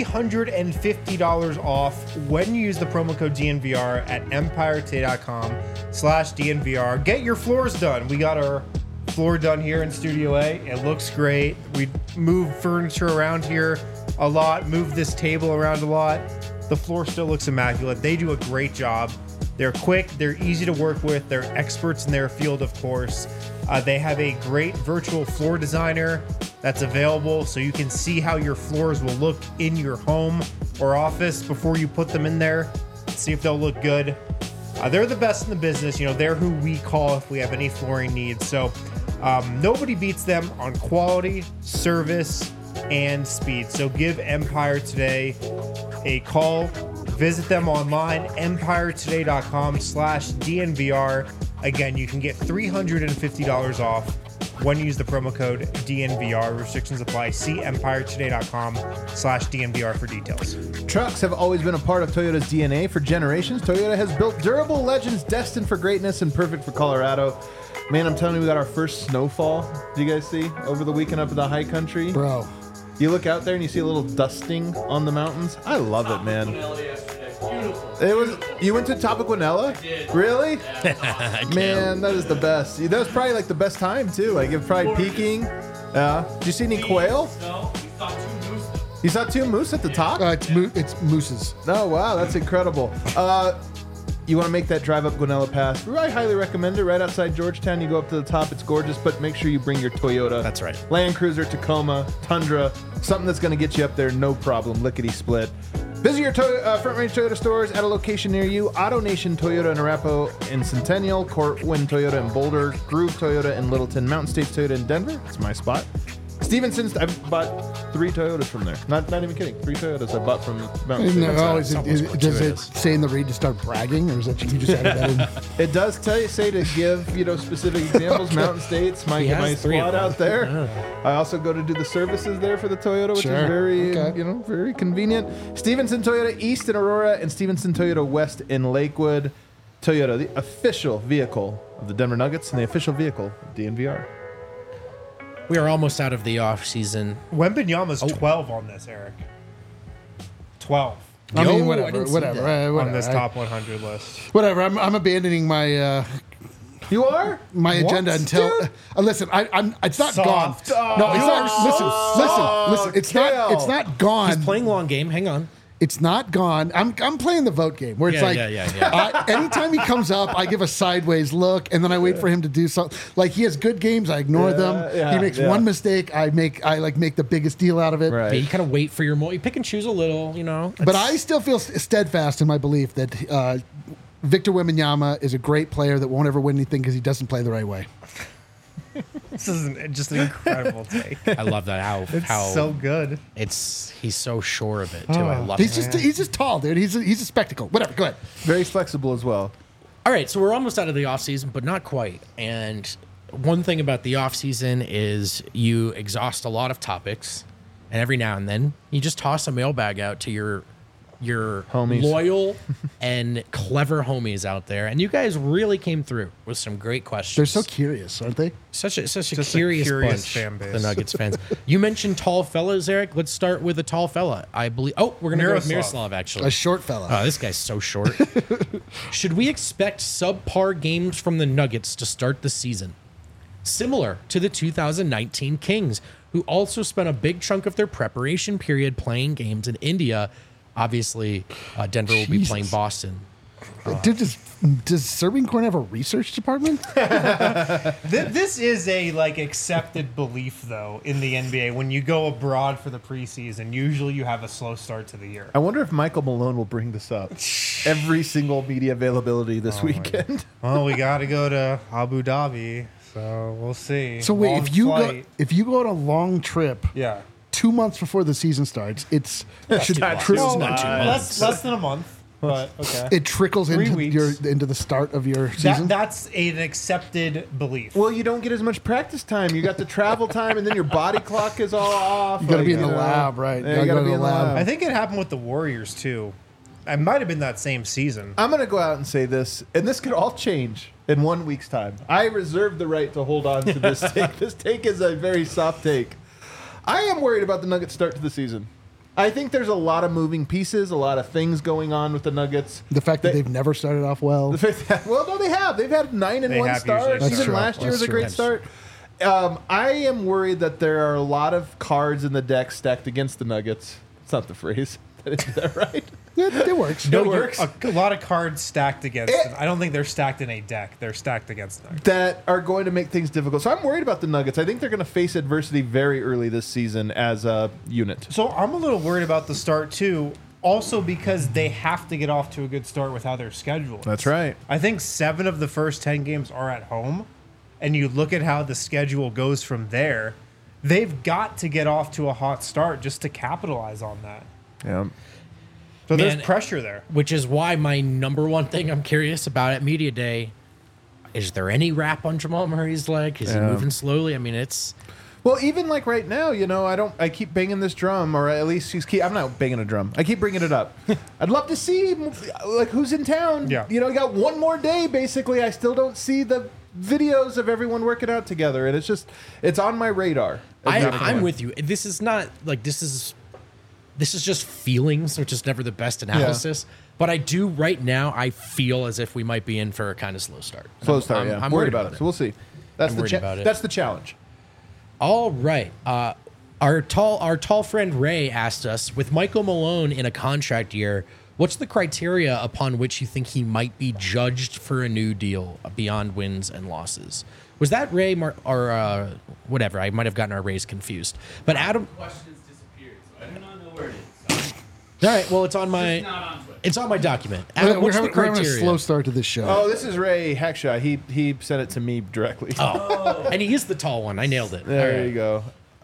S3: $350 off when you use the promo code DNVR at EmpireToday.com/DNVR. Get your floors done. We got our floor done here in Studio A. It looks great. We moved furniture around here a lot, moved this table around a lot. The floor still looks immaculate. They do a great job. They're quick, they're easy to work with, they're experts in their field, of course. They have a great virtual floor designer that's available so you can see how your floors will look in your home or office before you put them in there. See if they'll look good. They're the best in the business. You know, they're who we call if we have any flooring needs. So nobody beats them on quality, service, and speed. So give Empire Today a call. Visit them online, EmpireToday.com/DNVR. Again, you can get $350 off when you use the promo code DNVR. Restrictions apply. See EmpireToday.com/DNVR for details.
S1: Trucks have always been a part of Toyota's DNA for generations. Toyota has built durable legends destined for greatness and perfect for Colorado. Man, I'm telling you, we got our first snowfall. Do you guys see over the weekend up in the high country?
S4: Bro.
S1: You look out there and you see a little dusting on the mountains. I love it, man. It was. You went to Top of Guanella? I did. Really? Man, that is the best. That was probably like the best time too. Like it was probably peaking. Yeah. Did you see any quail?
S5: No, we saw 2 moose.
S1: You saw 2 moose at the top?
S4: It's mooses.
S1: Oh wow, that's incredible. You want to make that drive up Guanella Pass? I highly recommend it. Right outside Georgetown, you go up to the top. It's gorgeous, but make sure you bring your Toyota.
S2: That's right.
S1: Land Cruiser, Tacoma, Tundra, something that's going to get you up there, no problem. Lickety split. Visit your Front Range Toyota stores at a location near you. Auto Nation Toyota in Arapahoe and Centennial, Cortland Toyota in Boulder, Groove Toyota in Littleton, Mountain States Toyota in Denver. That's my spot. Stevenson's, I've bought 3 Toyotas from there. Not even kidding. 3 Toyotas I bought from Mountain States.
S4: No, does it say in the read to start bragging, or is that you just added that in?
S1: It does say to give specific examples. Mountain States, my squad out there. Yeah. I also go to do the services there for the Toyota, which is very very convenient. Stevenson Toyota East in Aurora and Stevenson Toyota West in Lakewood. Toyota, the official vehicle of the Denver Nuggets and the official vehicle of DNVR.
S2: We are almost out of the off season.
S3: Wembanyama's 12 on this, Eric. 12.
S4: I mean,
S2: I
S4: whatever.
S2: didn't see that.
S3: On this top 100 list.
S4: Whatever. I'm abandoning my.
S1: You are
S4: my agenda until listen. It's not
S3: Soft.
S4: gone. No, it's not. Listen. It's not. It's not gone.
S2: He's playing long game. Hang on.
S4: It's not gone. I'm playing the vote game where it's anytime he comes up, I give a sideways look, and then I wait for him to do something. Like he has good games, I ignore them. He makes one mistake, I make the biggest deal out of it.
S1: Right.
S2: Yeah, you kind of wait for your moment. You pick and choose a little, you know.
S4: But I still feel steadfast in my belief that Victor Wembanyama is a great player that won't ever win anything because he doesn't play the right way.
S3: This is just an incredible take.
S2: I love that. How
S3: so good.
S2: He's so sure of it too. I love
S4: He's
S2: it.
S4: he's just tall, dude. He's a spectacle. Whatever. Go ahead.
S1: very flexible as well.
S2: All right, so we're almost out of the off season, but not quite. And one thing about the off season is you exhaust a lot of topics, and every now and then you just toss a mailbag out to your
S1: Homies.
S2: loyal and clever homies out there, and you guys really came through with some great questions.
S4: They're so curious, aren't they?
S2: Such a
S3: Just
S2: curious
S3: a curious
S2: bunch,
S3: fan base.
S2: the Nuggets fans. You mentioned tall fellas, Eric. Let's start with a tall fella. I believe. Oh, we're gonna go with
S3: Miroslav.
S2: Miroslav actually.
S4: A short fella.
S2: Oh, this guy's so short. Should we expect subpar games from the Nuggets to start the season? Similar to the 2019 Kings, who also spent a big chunk of their preparation period playing games in India. Obviously, Denver will be playing Boston.
S4: Dude, does Serbian Corn have a research department?
S3: This is a accepted belief though in the NBA. When you go abroad for the preseason, usually you have a slow start to the year.
S1: I wonder if Michael Malone will bring this up. Every single media availability this weekend.
S3: Well, we got to go to Abu Dhabi, so we'll see.
S4: So wait,
S3: Long
S4: if you
S3: flight.
S4: go on a long trip,
S3: yeah,
S4: 2 months before the season starts, it's
S2: It's not 2 months.
S3: less than a month. But okay,
S4: it trickles
S3: 3
S4: into
S3: weeks.
S4: into the start of your season.
S3: that's an accepted belief.
S1: Well, you don't get as much practice time. You got the travel time, and then your body clock is all off.
S4: You got to be in the lab, right?
S1: Yeah, you got to be in the lab.
S3: I think it happened with the Warriors too. It might have been that same season.
S1: I'm going to go out and say this, and this could all change in 1 week's time. I reserve the right to hold on to this take. This take is a very soft take. I am worried about the Nuggets' start to the season. I think there's a lot of moving pieces, a lot of things going on with the Nuggets.
S4: The fact that they've never started off well.
S1: No, they have. They've had 9-1 starts.
S3: That's
S1: Even
S3: true.
S1: last year was a
S4: That's
S1: great
S4: true.
S1: start. I am worried that there are a lot of cards in the deck stacked against the Nuggets. It's not the phrase. Is that right?
S4: Yeah, it works.
S2: No,
S1: It works.
S3: A lot of cards stacked against them. I don't think they're stacked in a deck. They're stacked against them.
S1: That are going to make things difficult. So I'm worried about the Nuggets. I think they're going to face adversity very early this season as a unit.
S3: So I'm a little worried about the start too. Also because they have to get off to a good start with how their schedule is.
S1: That's right.
S3: I think 7 of the first 10 games are at home, and you look at how the schedule goes from there. They've got to get off to a hot start just to capitalize on that.
S1: Yeah.
S3: So there's
S2: Man,
S3: pressure there.
S2: Which is why my number one thing I'm curious about at Media Day, is there any wrap on Jamal Murray's leg? Is he
S1: Yeah.
S2: moving slowly? I mean, it's...
S1: Well, even like right now, I keep banging this drum, or at least I'm not banging a drum. I keep bringing it up. I'd love to see, like, who's in town.
S3: Yeah.
S1: You got one more day, basically. I still don't see the videos of everyone working out together, and it's on my radar.
S2: I'm with you. This is not, like, this is just feelings, which is never the best analysis. But I do, right now, I feel as if we might be in for a kind of slow start.
S1: Slow start,
S2: I'm
S1: worried about it. So we'll see. That's
S2: I'm worried about it.
S1: That's the challenge.
S2: All right. Our tall friend Ray asked us, with Michael Malone in a contract year, what's the criteria upon which you think he might be judged for a new deal beyond wins and losses? Was that Ray or whatever? I might have gotten our Rays confused. But Adam,
S5: Questions disappeared, so I do not know where it is.
S2: all right. Well, it's on my
S5: It's not on Twitter.
S2: it's on my document. Adam,
S4: We're
S2: what's the
S4: having, we're having a
S2: criteria?
S4: slow start to this show.
S1: Oh, this is Ray Hackshaw. He sent it to me directly.
S2: Oh, and he is the tall one. I nailed it.
S1: There
S2: All right.
S1: you go.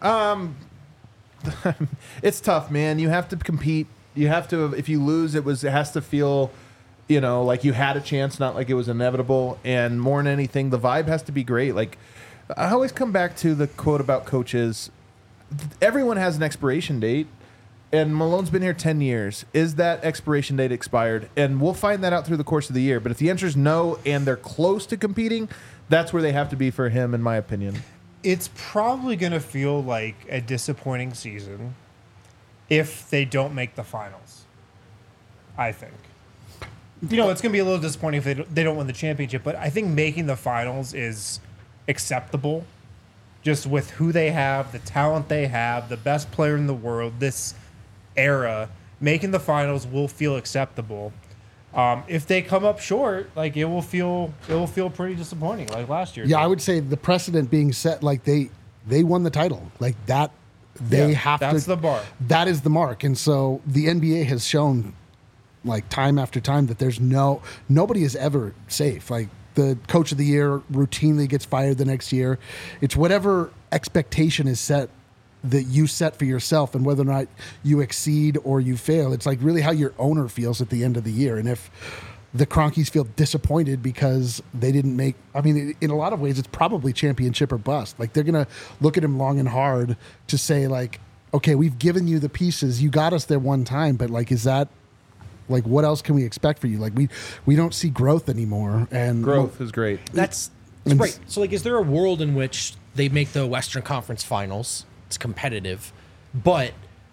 S1: It's tough, man. You have to compete. You have to. If you lose, it has to feel, like you had a chance, not like it was inevitable. And more than anything, the vibe has to be great. Like, I always come back to the quote about coaches. Everyone has an expiration date, and Malone's been here 10 years. Is that expiration date expired? And we'll find that out through the course of the year. But if the answer is no, and they're close to competing, that's where they have to be for him, in my opinion.
S3: It's probably going to feel like a disappointing season if they don't make the finals, I think. It's going to be a little disappointing if they don't win the championship, but I think making the finals is acceptable just with who they have, the talent they have, the best player in the world, this era. Making the finals will feel acceptable. If they come up short, like it will feel pretty disappointing, like last year.
S4: Yeah, I would say the precedent being set, like they won the title, like that. They have to.
S3: That's the bar.
S4: That is the mark, and so the NBA has shown, like time after time, that there's nobody is ever safe. Like the coach of the year routinely gets fired the next year. It's whatever expectation is set that you set for yourself, and whether or not you exceed or you fail. It's like really how your owner feels at the end of the year. And if the Cronkies feel disappointed because they didn't make, I mean, in a lot of ways, it's probably championship or bust. Like they're going to look at him long and hard to say like, okay, we've given you the pieces. You got us there one time, but like, is that like, what else can we expect for you? Like we don't see growth anymore. And
S1: Growth is great.
S2: That's
S4: And-
S2: right. So, like, is there a world in which they make the Western Conference Finals? It's competitive, but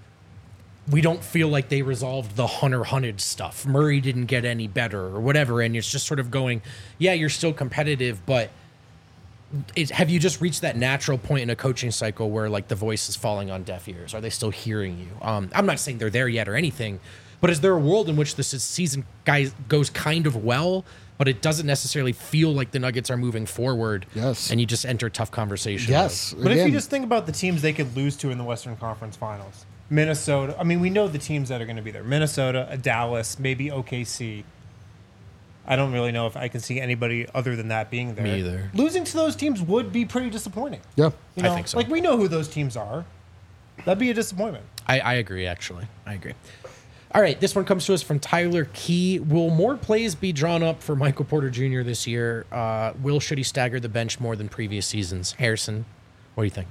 S2: we don't feel like they resolved the Hunted stuff. Murray didn't get any better or whatever, and it's just sort of going, yeah, you're still competitive, but have you just reached that natural point in a coaching cycle where like the voice is falling on deaf ears? Are they still hearing you? I'm not saying they're there yet or anything, but is there a world in which this season goes kind of well, but it doesn't necessarily feel like the Nuggets are moving forward?
S4: Yes.
S2: And you just enter a tough conversation.
S4: yes,
S3: But if
S4: again,
S3: you just think about the teams they could lose to in the Western Conference Finals, Minnesota. I mean, we know the teams that are going to be there: Minnesota, a Dallas, maybe OKC. I don't really know if I can see anybody other than that being there.
S2: Me either.
S3: Losing to those teams would be pretty disappointing.
S4: yeah.
S3: You know,
S2: I think so.
S3: Like we know who those teams are. That'd be a disappointment.
S2: I agree, actually. I agree. All right, this one comes to us from Tyler Key. Will more plays be drawn up for Michael Porter Jr. this year? Should he stagger the bench more than previous seasons? Harrison, what do you think?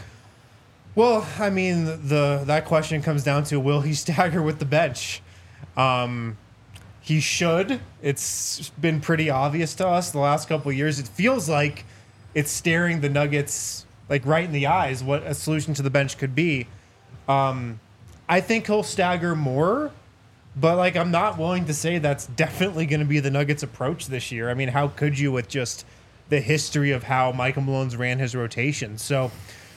S3: Well, I mean, that question comes down to will he stagger with the bench? He should. It's been pretty obvious to us the last couple of years. It feels like it's staring the Nuggets like right in the eyes what a solution to the bench could be. I think he'll stagger more, but like I'm not willing to say that's definitely going to be the Nuggets' approach this year. I mean, how could you with just the history of how Michael Malone's ran his rotation? So,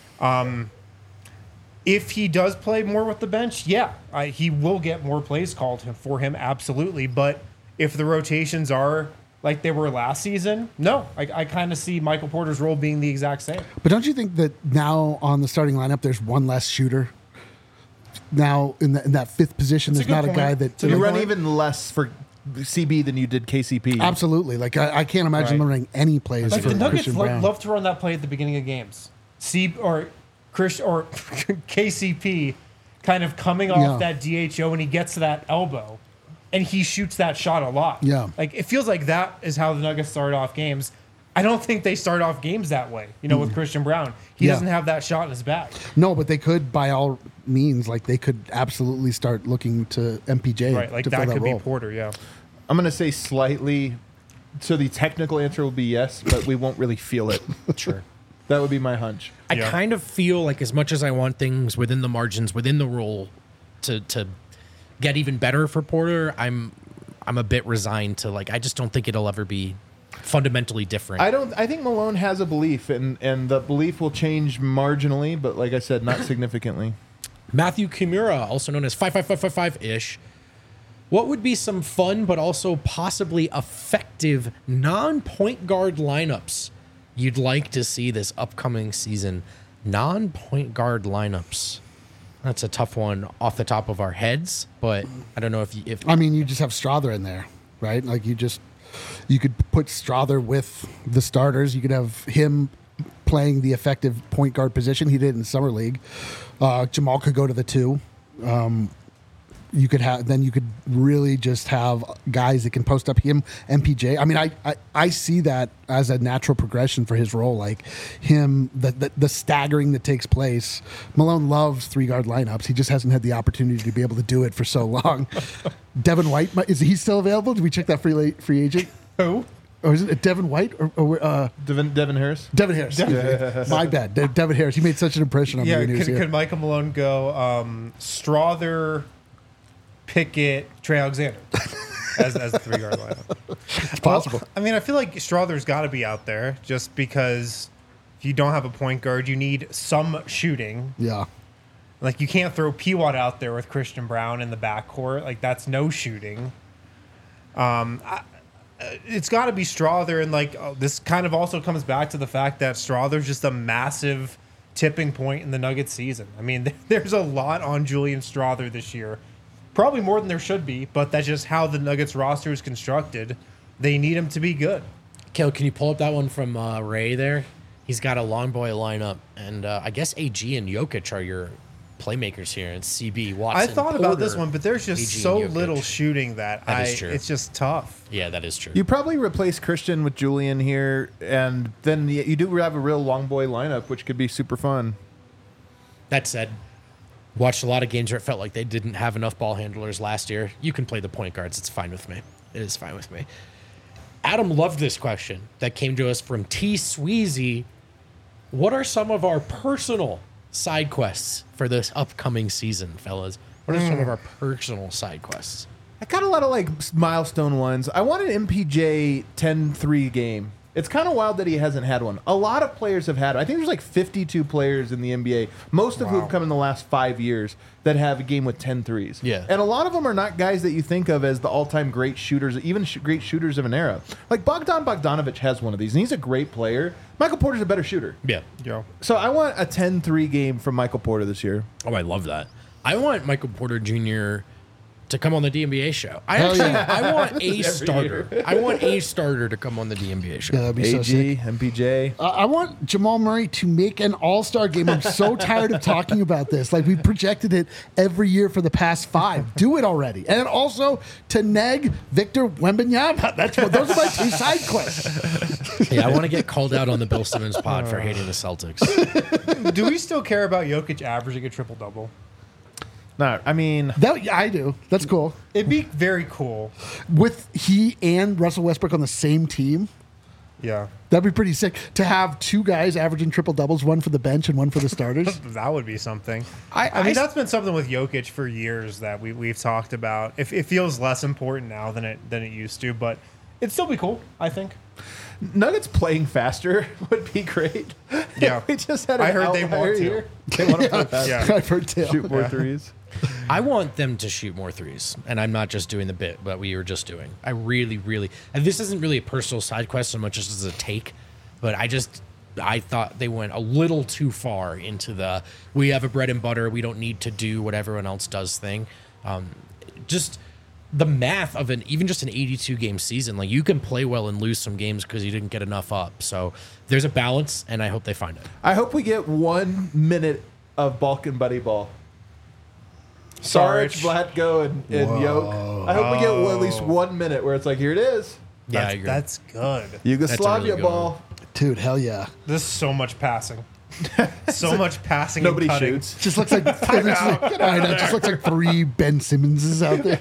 S3: if he does play more with the bench, he will get more plays called for him, absolutely. But if the rotations are like they were last season, no, I kind of see Michael Porter's role being the exact same.
S4: But don't you think that now on the starting lineup, there's one less shooter? Now in that fifth position,
S3: That's
S4: there's
S3: a good
S4: not a guy
S3: point.
S4: that
S1: You run even less for CB than you did KCP.
S4: Absolutely. Like I can't imagine
S3: Right.
S4: running any plays
S3: Like
S4: for
S3: the Nuggets
S4: Christian Brown.
S3: love to run that play at the beginning of games. KCP kind of coming off that DHO and he gets to that elbow and he shoots that shot a lot.
S4: Yeah.
S3: Like it feels like that is how the Nuggets start off games. I don't think they start off games that way, with Christian Brown. He doesn't have that shot in his bag.
S4: No, but they could, by all means, like they could absolutely start looking to MPJ.
S3: Right. Like
S4: to
S3: that
S4: fill
S3: could
S4: role.
S3: be Porter, yeah.
S1: I'm going to say slightly. So the technical answer will be yes, but we won't really feel it.
S2: Sure.
S1: That would be my hunch.
S2: I
S3: Yeah.
S2: kind of feel like as much as I want things within the margins, within the role to get even better for Porter, I'm a bit resigned to I just don't think it'll ever be fundamentally different.
S1: I think Malone has a belief, and the belief will change marginally, but like I said, not significantly.
S2: Matthew Kimura, also known as 55555-ish. What would be some fun but also possibly effective non-point guard lineups you'd like to see this upcoming season? Non-point guard lineups. That's a tough one off the top of our heads, but I don't know if
S4: I mean, you just have Strother in there, right? Like you could put Strother with the starters. You could have him playing the effective point guard position. He did in Summer League. Jamal could go to the 2. You could really just have guys that can post up him, MPJ. I mean, I see that as a natural progression for his role. Like him, the staggering that takes place. Malone loves 3-guard lineups. He just hasn't had the opportunity to be able to do it for so long. Devin White, is he still available? Did we check that free agent?
S3: Who?
S4: Or is it Devin White? Or
S1: Devin Harris?
S4: Devin Harris. My bad. Devin Harris. He made such an impression on me
S3: Yeah,
S4: when he was here.
S3: could Michael Malone go Strother, Pickett, Trey Alexander as the 3-guard lineup?
S4: It's possible.
S3: Well, I mean, I feel like Strother's got to be out there just because if you don't have a point guard, you need some shooting.
S4: Yeah.
S3: Like you can't throw Pewatt out there with Christian Brown in the backcourt. Like that's no shooting. It's got to be Strother, and this kind of also comes back to the fact that Strother's just a massive tipping point in the Nuggets season. I mean, there's a lot on Julian Strother this year. Probably more than there should be, but that's just how the Nuggets roster is constructed. They need him to be good.
S2: Kale, can you pull up that one from Ray there? He's got a long boy lineup, and I guess AG and Jokic are your playmakers here, and CB, Watson,
S3: I thought about this
S2: Porter,
S3: one, but there's just
S2: AG,
S3: so
S2: and Jokic.
S3: little shooting that
S2: is true.
S3: it's just tough.
S2: Yeah, that is true.
S1: You probably replace Christian with Julian here, and then you do have a real long boy lineup, which could be super fun.
S2: That said, watched a lot of games where it felt like they didn't have enough ball handlers last year. You can play the point guards. It's fine with me. It is fine with me. Adam loved this question that came to us from T. Sweezy. What are some of our personal side quests for this upcoming season, fellas? What are some of our personal side quests?
S1: I got a lot of milestone ones. I want an MPJ 10-3 game. It's kind of wild that he hasn't had one. A lot of players have had it. I think there's 52 players in the NBA, most of who have come in the last 5 years, that have a game with 10 threes.
S2: Yeah.
S1: And a lot of them are not guys that you think of as the all-time great shooters, even great shooters of an era. Like Bogdan Bogdanovic has one of these, and he's a great player. Michael Porter's a better shooter.
S2: Yeah.
S3: Yo.
S1: So I want a 10-3 game from Michael Porter this year.
S2: Oh, I love that. I want Michael Porter Jr. to come on the DNBA show.
S4: Hell yeah.
S2: I want a starter. I want a starter to come on the DNBA show.
S4: Yeah, that'd be so sick.
S1: AG, MPJ.
S4: I want Jamal Murray to make an all-star game. I'm so tired of talking about this. Like, we projected it every year for the past 5. Do it already. And also to neg Victor Wembanyama. Those are my 2 side quests.
S2: Yeah, I want to get called out on the Bill Simmons pod for hating the Celtics.
S3: Do we still care about Jokic averaging a triple-double?
S1: No, I mean,
S4: That I do. That's cool.
S3: It'd be very cool.
S4: With he and Russell Westbrook on the same team,
S3: Yeah.
S4: that'd be pretty sick. To have two guys averaging triple doubles, one for the bench and one for the starters.
S3: That would be something.
S2: I
S3: I mean, that's been something with Jokic for years that we've talked about. It feels less important now than it used to, but it'd still be cool, I think.
S1: Nuggets playing faster would be great.
S3: Yeah.
S1: We just had an
S3: I heard they
S1: outlier
S3: want to.
S1: here. They want to play faster.
S3: Yeah.
S4: I've heard too.
S1: Shoot more threes.
S2: I want them to shoot more threes, and I'm not just doing the bit that we were just doing. I really, really, and this isn't really a personal side quest so much as a take, but I thought they went a little too far into the we have a bread and butter, we don't need to do what everyone else does thing. Just the math of even just an 82 game season, like you can play well and lose some games because you didn't get enough up. So there's a balance, and I hope they find it.
S1: I hope we get 1 minute of Balkan Buddy Ball. Saric, Vlatko, and Yoke. I hope we get at least 1 minute where it's like, here it is.
S2: Yeah, I agree.
S3: That's good.
S1: Yugoslavia
S2: good
S1: ball.
S4: Dude, hell yeah.
S3: There's so much passing. So much passing.
S1: Nobody
S3: and cutting.
S1: shoots.
S4: Just looks like I know, it just looks like 3 Ben Simmonses out there.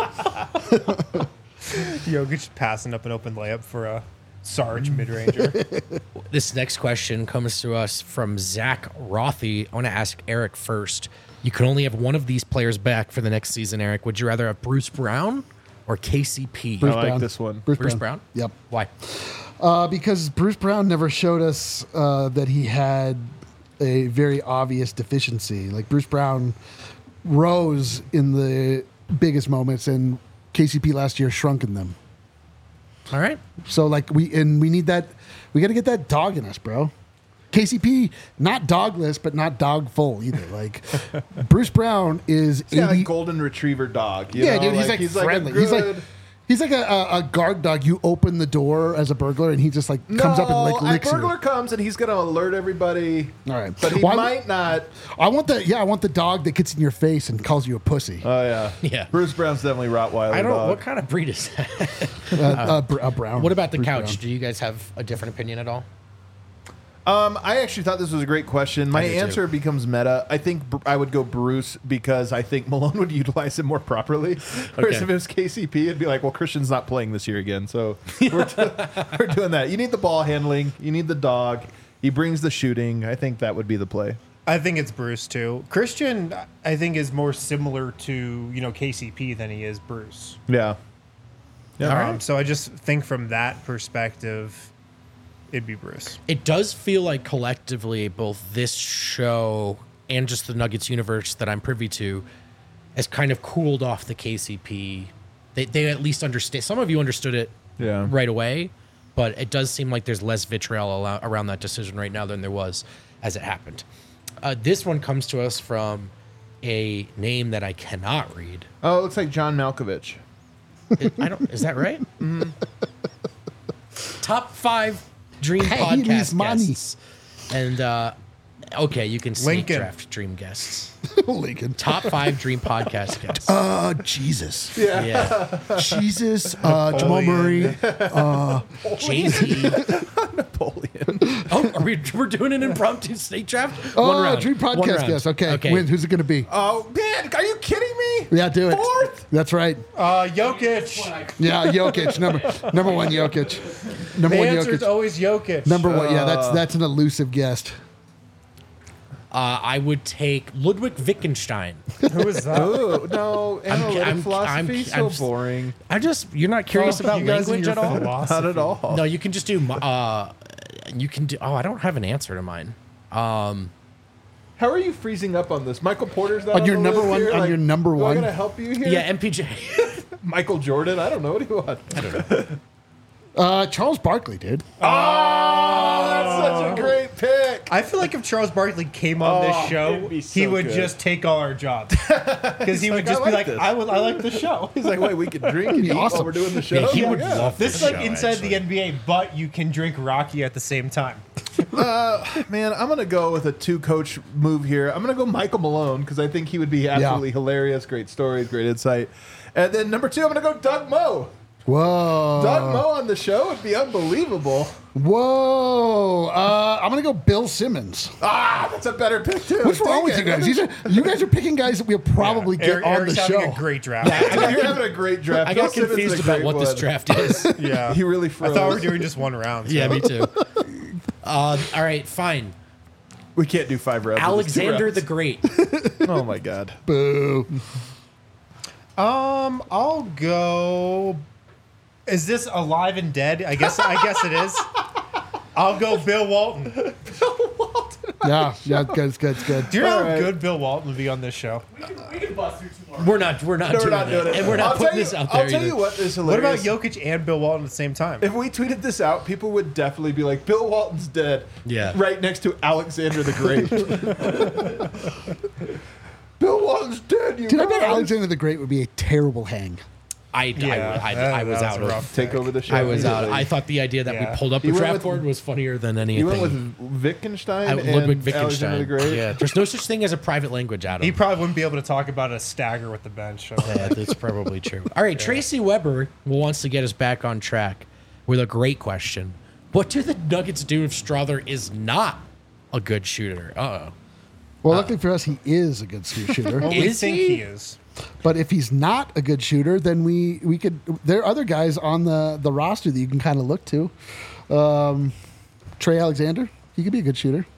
S3: Jokic passing up an open layup for a Sarge mid-ranger.
S2: This next question comes to us from Zach Rothy. I want to ask Eric first. You can only have one of these players back for the next season, Eric. Would you rather have Bruce Brown or KCP?
S4: Bruce
S1: I like
S4: Brown.
S1: this one.
S2: Bruce Brown?
S4: Yep.
S2: Why?
S4: Because Bruce Brown never showed us that he had a very obvious deficiency. Like Bruce Brown rose in the biggest moments, and KCP last year shrunk in them.
S2: All right.
S4: So like we need that. We got to get that dog in us, bro. KCP, not dogless, but not dog full either. Like Bruce Brown is
S1: He's got
S4: 80
S1: a golden retriever dog. You
S4: yeah,
S1: know?
S4: dude. He's like friendly.
S1: a
S4: He's like a guard dog. You open the door as a burglar, and he just like comes up and like licks
S1: a burglar
S4: you.
S1: comes and he's going to alert everybody.
S4: All right,
S1: But he
S4: Well,
S1: might not.
S4: I want the dog that gets in your face and calls you a pussy.
S1: Oh, yeah.
S2: Yeah.
S1: Bruce Brown's definitely Rottweiler
S2: I don't.
S1: dog.
S2: What kind of breed is that?
S4: A brown.
S2: What about the
S4: Bruce
S2: couch?
S4: Brown.
S2: Do you guys have a different opinion at all?
S1: I actually thought this was a great question. My
S2: I did too.
S1: answer becomes meta. I think I would go Bruce because I think Malone would utilize him more properly. Whereas
S2: Okay.
S1: if it was KCP, it'd be like, well, Christian's not playing this year again. So we're doing that. You need the ball handling. You need the dog. He brings the shooting. I think that would be the play.
S3: I think it's Bruce too. Christian, I think, is more similar to KCP than he is Bruce.
S1: Yeah. Yeah.
S2: All right.
S3: So I just think from that perspective, it'd be Bruce.
S2: It does feel like collectively, both this show and just the Nuggets universe that I'm privy to has kind of cooled off the KCP. They at least understand. Some of you understood it
S1: Yeah.
S2: right away, but it does seem like there's less vitriol around that decision right now than there was as it happened. This one comes to us from a name that I cannot read.
S1: Oh, it looks like John Malkovich.
S2: Is that right? Top 5 Dream
S4: Hey,
S2: podcast
S4: Miss Money.
S2: guests. And okay, you can snake
S3: Lincoln.
S2: draft dream guests.
S4: Lincoln.
S2: Top 5 Dream podcast guests.
S4: Jesus.
S2: Yeah.
S4: Jesus. Jamal Murray.
S2: Jay-Z.
S1: Napoleon.
S2: Oh, we're doing an impromptu snake draft?
S4: Oh,
S2: One round.
S4: Dream
S2: One
S4: podcast
S2: round.
S4: guest. Okay.
S2: Okay.
S4: Who's it going to be?
S1: Oh, man. Are you kidding me?
S4: Yeah, do it.
S1: Fourth?
S4: That's right.
S3: Jokic.
S4: Yeah, Jokic. Number one, Jokic. Number
S3: The
S4: one,
S3: answer is
S4: Jokic.
S3: always Jokic.
S4: Number one. Yeah, that's an elusive guest.
S2: I would take Ludwig Wittgenstein.
S3: Who is that?
S1: Oh, no. Analytic philosophy. So boring.
S2: You're not curious about
S3: You guys and
S2: language
S3: your
S2: at all?
S3: philosophy.
S1: Not at all.
S2: No, you can just do, I don't have an answer to mine.
S1: How are you freezing up on this? Michael Porter's not
S4: On your
S1: the
S4: number
S1: list
S4: one-
S1: here?
S4: on your number
S1: am I
S4: one?
S1: going to help you here?
S2: Yeah, MPJ.
S1: Michael Jordan? I don't know. What do you want? I don't know.
S4: Charles Barkley, dude.
S1: Oh, that's such a great pick.
S3: I feel like if Charles Barkley came on this show,
S1: it'd be so
S3: he would
S1: good.
S3: just take all our jobs. Because he would
S1: like,
S3: just
S1: "I
S3: be
S1: like
S3: like,
S1: this."
S3: I like the show.
S1: He's like, wait, we can drink and
S4: be
S1: eat
S4: awesome.
S1: while we're doing the show?
S2: Yeah, he
S1: I'm
S2: would
S1: like, yeah.
S2: love
S3: This is
S2: the
S3: like
S2: show,
S3: inside
S2: actually.
S3: the NBA, but you can drink Rocky at the same time.
S1: Man, I'm going to go with a 2-coach move here. I'm going to go Michael Malone because I think he would be absolutely hilarious. Great stories, great insight. And then number 2, I'm going to go Doug Moe.
S4: Whoa.
S1: Doug Moe on the show would be unbelievable.
S4: Whoa. I'm going to go Bill Simmons.
S1: Ah, that's a better pick too.
S4: What's wrong
S1: Dang
S4: with
S1: it.
S4: you guys? You guys are picking guys that we'll probably get on
S3: Eric's
S4: the
S3: having
S4: show.
S3: a great draft.
S1: You're having a great draft.
S2: I
S1: Bill
S2: got
S1: Simmons is
S2: confused
S1: a
S2: about
S1: great
S2: what this
S1: one.
S2: draft is.
S3: Yeah.
S1: He really
S3: I
S1: froze.
S3: thought we were doing just one round. So.
S2: Yeah, me too. All right, fine.
S1: We can't do 5 rounds.
S2: Alexander
S1: It's
S2: the
S1: 2
S2: Great.
S1: rounds. Oh my god.
S4: Boo.
S3: I'll go. Is this alive and dead? I guess it is. I'll go Bill Walton.
S4: Yeah, it's good.
S3: Do you know how
S1: Alright.
S3: good Bill Walton would be on this show?
S5: We can bust through tomorrow.
S2: We're not
S1: No, we're
S2: doing
S1: not doing
S2: it.
S1: it.
S2: And we're not
S1: I'll
S2: putting
S1: tell you-
S2: this out there
S1: I'll tell
S2: either.
S1: you what is
S3: What about
S1: hilarious.
S3: Jokic and Bill Walton at the same time?
S1: If we tweeted this out, people would definitely be like, Bill Walton's dead.
S2: Yeah.
S1: Right next to Alexander the Great. Bill Walton's dead, you
S4: Dude, I bet
S1: guys.
S4: Alexander the Great would be a terrible hang.
S2: I was out of.
S1: Take over the show.
S2: I was out.
S1: immediately.
S2: I thought the idea that
S3: Yeah.
S2: we pulled up
S1: He
S2: a
S1: went
S2: draft
S1: with-
S2: board was funnier than anything.
S1: You went with Wittgenstein and
S2: Ludwig
S1: Alexander the
S2: Wittgenstein.
S1: Great.
S2: Yeah, there's no such thing as a private language, Adam.
S3: He probably wouldn't be able to talk about a stagger with the bench. So.
S2: Yeah, that's probably true. All right, Tracy Weber wants to get us back on track with a great question. What do the Nuggets do if Strother is not a good shooter? Uh-oh.
S4: Well, luckily for us, he is a good shooter.
S3: Well, we
S2: Is
S3: think
S2: he?
S3: he is.
S4: But if he's not a good shooter, then we could. There are other guys on the roster that you can kind of look to. Trey Alexander, he could be a good shooter.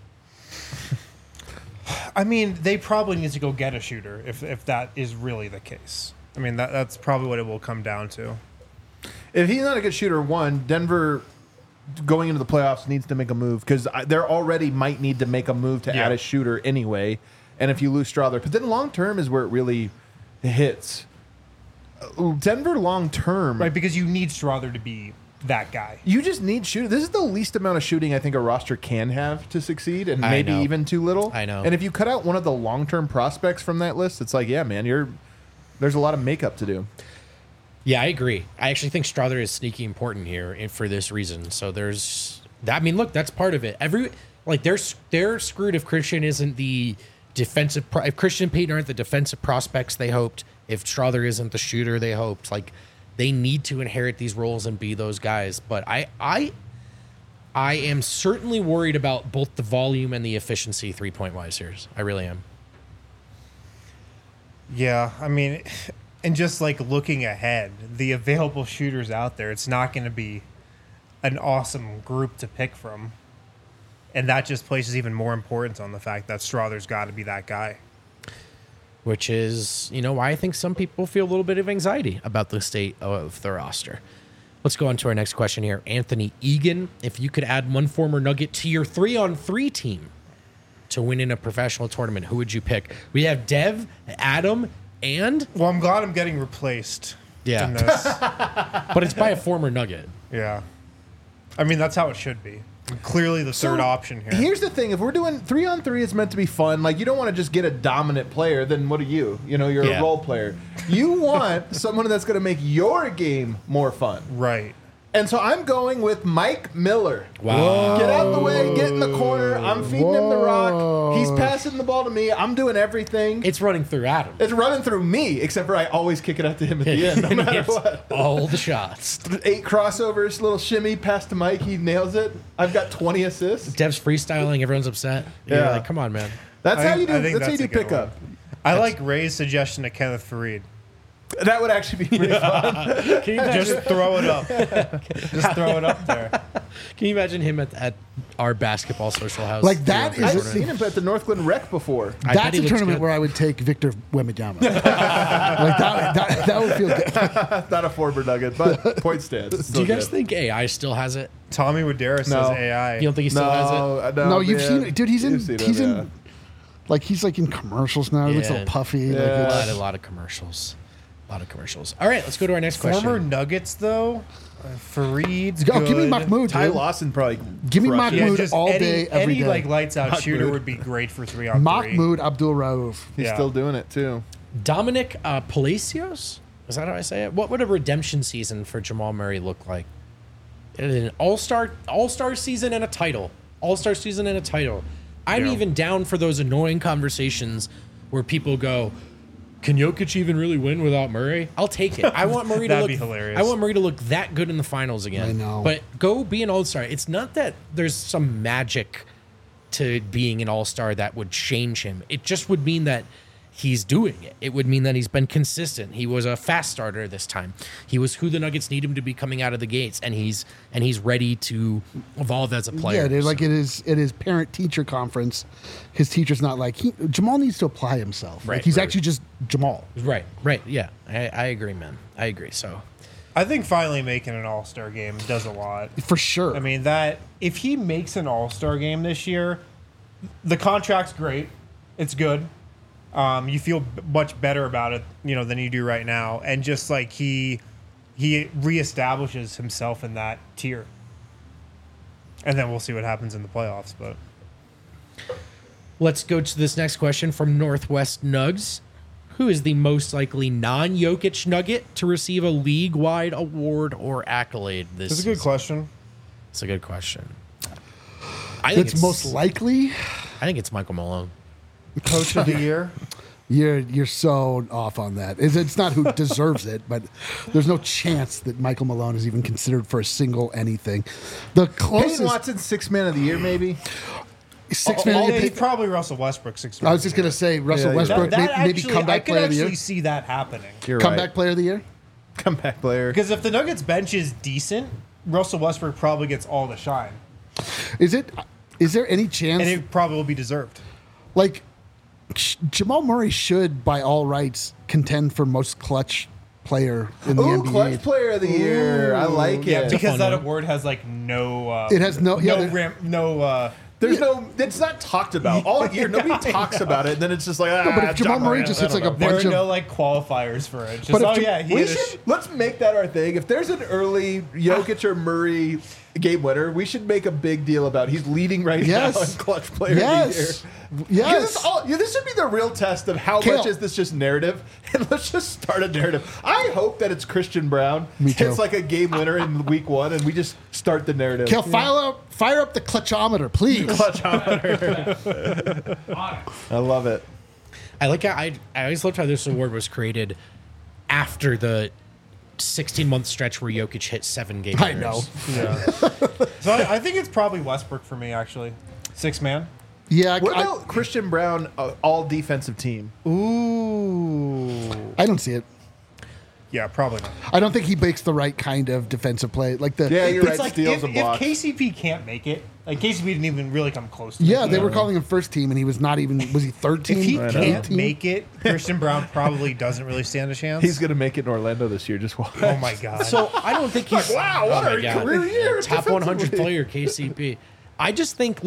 S3: I mean, they probably need to go get a shooter if that is really the case. I mean, that's probably what it will come down to.
S1: If he's not a good shooter, one, Denver going into the playoffs needs to make a move because they already might need to make a move to
S3: Yeah.
S1: add a shooter anyway. And if you lose Strother, but then long term is where it really hits. Denver long term,
S3: Right, because you need Strother to be that guy.
S1: you just need shooting. This is the least amount of shooting I think a roster can have to succeed, and
S2: I
S1: maybe
S2: know.
S1: even too little.
S2: I know.
S1: And if you cut out one of the long term prospects from that list, it's like, yeah, man, there's a lot of makeup to do.
S2: Yeah, I agree. I actually think Strother is sneaky important here for this reason. So there's that. I mean, look, that's part of it. They're screwed if Christian isn't the defensive. If Christian and Payton aren't the defensive prospects they hoped, if Strother isn't the shooter they hoped, like they need to inherit these roles and be those guys. But I am certainly worried about both the volume and the efficiency 3-point wise here. I really am.
S3: Yeah, I mean, and just like looking ahead, the available shooters out there, it's not going to be an awesome group to pick from. And that just places even more importance on the fact that Strother's got to be that guy.
S2: Which is, why I think some people feel a little bit of anxiety about the state of the roster. Let's go on to our next question here. Anthony Egan, if you could add one former Nugget to your 3-on-3 team to win in a professional tournament, who would you pick? We have Dev, Adam, and...
S3: Well, I'm glad I'm getting replaced
S2: Yeah.
S3: in this.
S2: But it's by a former Nugget.
S3: Yeah. I mean, that's how it should be. I'm clearly the third option here.
S1: Here's the thing: if we're doing 3-on-3, it's meant to be fun. Like, you don't want to just get a dominant player. Then what are you? You're
S2: Yeah.
S1: a role player. You want someone that's going to make your game more fun.
S3: Right.
S1: And so I'm going with Mike Miller.
S2: Wow.
S1: Get out of the way, get in the corner. I'm feeding him the rock. He's passing the ball to me. I'm doing everything.
S2: It's running through Adam.
S1: It's running through me, except for I always kick it out to him at the end, no
S2: And he
S1: matter
S2: hits
S1: what.
S2: all the shots.
S1: 8 crossovers, little shimmy, pass to Mike. He nails it. I've got 20 assists.
S2: Dev's freestyling. Everyone's upset. You're
S1: Yeah.
S2: like, come on, man.
S1: That's how you do.
S3: I think
S1: That's how you
S3: that's
S1: do
S3: a good
S1: pickup.
S3: one. I like Ray's suggestion to Kenneth Fareed.
S1: That would actually be pretty fun.
S2: Can you imagine,
S3: Just throw it up. Just throw it up there.
S2: can you imagine him at our basketball social house?
S4: Like, that is-
S1: I've seen him at the Northglenn Rec before.
S2: I bet
S4: That's
S2: he
S4: a
S2: looks
S4: tournament
S2: good.
S4: where I would take Victor Wembanyama. Like that would feel good.
S1: Not a former Nugget, but point stands. It's
S2: Do
S1: still
S2: you guys
S1: good.
S2: think AI still has it?
S3: Tommy Woodera says
S1: No.
S3: AI.
S2: You don't think he still has it?
S1: No,
S4: You've
S1: man.
S4: seen it, dude. He's
S1: You've seen
S4: in.
S1: him, yeah.
S4: He's like in commercials now. He looks a
S2: Yeah.
S4: little puffy.
S1: Yeah.
S4: Like
S2: A
S4: it's-
S2: lot of commercials. A lot of commercials. All right, let's go to our next question.
S3: Former Nuggets, though, Fareed's
S4: Oh,
S3: good.
S4: give me Mahmoud.
S1: Ty
S4: dude.
S1: Lawson probably.
S4: Give me
S1: crushed it.
S4: Mahmoud.
S3: just
S4: all
S3: any,
S4: day, every
S3: any
S4: day.
S3: like lights out
S1: Mahmoud.
S3: shooter would be great for 3-on-3.
S4: Mahmoud Abdul Rauf.
S1: He's
S3: Yeah.
S1: still doing it too.
S2: Dominic Palacios? Is that how I say it? What would a redemption season for Jamal Murray look like? An all-star season and a title. All-star season and a title. I'm
S3: Yeah.
S2: even down for those annoying conversations where people go, can Jokic even really win without Murray? I'll take it. I want Murray to
S3: That'd
S2: look
S3: be hilarious.
S2: I want Murray to look that good in the finals again.
S4: I know.
S2: But go be an all-star. It's not that there's some magic to being an all-star that would change him. It just would mean that he's doing it. It would mean that he's been consistent. He was a fast starter this time. He was who the Nuggets need him to be coming out of the gates, and he's ready to evolve as a player.
S4: Yeah, they're like
S2: So-
S4: at his parent teacher conference. His teacher's not like Jamal needs to apply himself. Like
S2: Right,
S4: he's
S2: right.
S4: actually just Jamal.
S2: Right. Yeah, I agree, man. I agree. So
S3: I think finally making an All-Star game does a lot.
S4: For sure.
S3: I mean, that if he makes an All-Star game this year, the contract's great. It's good. You feel much better about it, than you do right now. And just like he reestablishes himself in that tier. And then we'll see what happens in the playoffs. But
S2: let's go to this next question from Northwest Nugs. Who is the most likely non-Jokic Nugget to receive a league-wide award or accolade this
S3: it's a good
S2: season?
S3: question.
S2: It's a good question. I think
S4: It's most likely.
S2: I think it's Michael Malone.
S3: Coach of the year.
S4: You're so off on that. It's not who deserves it, but there's no chance that Michael Malone is even considered for a single anything. The
S1: Peyton
S4: closest
S1: Watson, 6th man of the year, maybe.
S4: 6
S3: Yeah,
S4: man.
S3: he's probably Russell Westbrook. 6
S4: I was just gonna say Russell
S1: Yeah,
S4: Westbrook,
S3: that
S4: maybe
S3: actually,
S4: comeback
S3: I could
S4: player of the
S3: actually
S4: year.
S3: see that happening.
S1: You're
S4: Comeback
S1: right.
S4: player of the year.
S1: Comeback player.
S3: Because if the Nuggets bench is decent, Russell Westbrook probably gets all the shine.
S4: Is there any chance
S3: And it probably will be deserved.
S4: like Jamal Murray should, by all rights, contend for most clutch player in the
S1: Ooh,
S4: NBA?
S1: clutch player of the year. I like
S3: Yeah,
S1: it.
S3: because
S2: fun
S3: that
S2: one.
S3: award has like no.
S4: It has no- yeah,
S1: There's no. It's not talked about all year. Nobody talks about it. And then it's just like,
S4: but if Jamal
S1: John
S4: Murray
S1: Morant,
S4: just
S1: I
S4: hits
S1: don't
S4: like a
S1: know.
S3: There
S4: bunch
S3: are
S4: of
S3: no like qualifiers for it. Just
S4: But if
S3: he
S1: We
S3: had a
S1: should, let's make that our thing. If there's an early Jokic or Murray game winner, we should make a big deal about it. He's leading right
S4: Yes.
S1: now in clutch player
S4: Yes.
S1: of the year.
S4: Yes.
S1: This should be the real test of how
S4: Kale.
S1: much is this just narrative, and let's just start a narrative. I hope that it's Christian Brown
S4: Me too.
S1: hits like a game winner in week 1, and we just start the narrative.
S4: Kale, fire up the clutchometer, please.
S1: I love it.
S2: I like how I always loved how this award was created after the 16-month stretch where Jokic hit 7 game
S4: I
S2: winners.
S4: know.
S3: So I think it's probably Westbrook for me actually. 6 man.
S4: Yeah,
S1: What about Christian Brown, all defensive team?
S3: Ooh.
S4: I don't see it.
S3: Yeah, probably not.
S4: I don't think he makes the right kind of defensive play. Like the
S1: Yeah, you're
S3: It's
S1: right.
S3: like
S1: Steals
S3: if
S1: and blocks.
S3: KCP can't make it, like KCP didn't even really come close to
S4: yeah,
S3: making
S4: they
S3: it.
S4: were calling him first team, and he was not even. Was he third team?
S3: If he
S1: I know.
S3: can't
S4: 18?
S3: make it, Christian Brown probably doesn't really stand a chance.
S1: He's going to make it in Orlando this year. Just watch.
S3: Oh my god.
S2: So I don't think he's
S1: Wow, what
S2: my
S1: a
S2: God.
S1: career year
S2: Top 100
S1: defensively.
S2: player KCP. I just think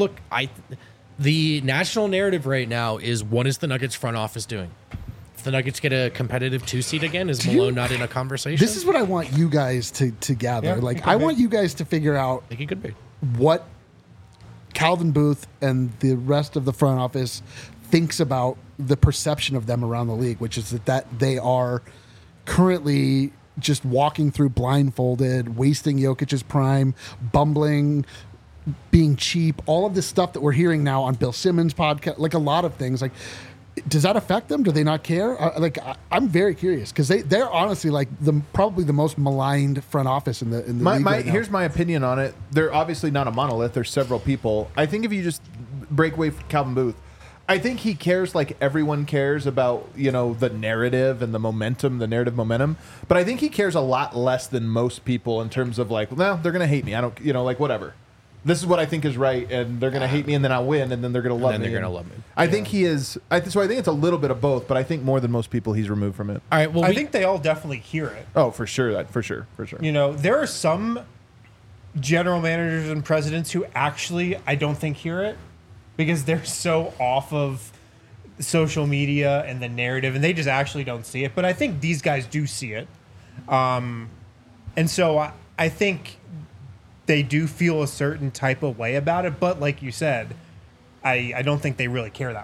S2: the national narrative right now is what is the Nuggets front office doing? If the Nuggets get a competitive 2 seed again, is Malone not in a conversation?
S4: This is what I want you guys to gather.
S3: Yeah,
S4: like
S3: it could
S4: I
S3: be.
S4: want you guys to figure out
S2: I think it could be.
S4: what Calvin Booth and the rest of the front office thinks about the perception of them around the league, which is that they are currently just walking through blindfolded, wasting Jokic's prime, bumbling, being cheap, all of this stuff that we're hearing now on Bill Simmons' podcast, like a lot of things. Like, does that affect them? Do they not care? I'm very curious because they're honestly like probably the most maligned front office in the league right now.
S1: Here's my opinion on it. They're obviously not a monolith. There's several people. I think if you just break away from Calvin Booth, I think he cares like everyone cares about, the narrative and the momentum, the narrative momentum. But I think he cares a lot less than most people in terms of like, well, they're going to hate me. I don't, like whatever. This is what I think is right, and they're going to hate me, and then I'll win, and then they're going to love
S2: then
S1: me.
S2: they're gonna
S1: And
S2: love me.
S1: I think he is. So I think it's a little bit of both, but I think more than most people, he's removed from it.
S2: All right. Well,
S3: I think they all definitely hear it.
S1: Oh, for sure. For sure.
S3: There are some general managers and presidents who actually I don't think hear it because they're so off of social media and the narrative, and they just actually don't see it. But I think these guys do see it, and so I think they do feel a certain type of way about it. But like you said, I don't think they really care that much.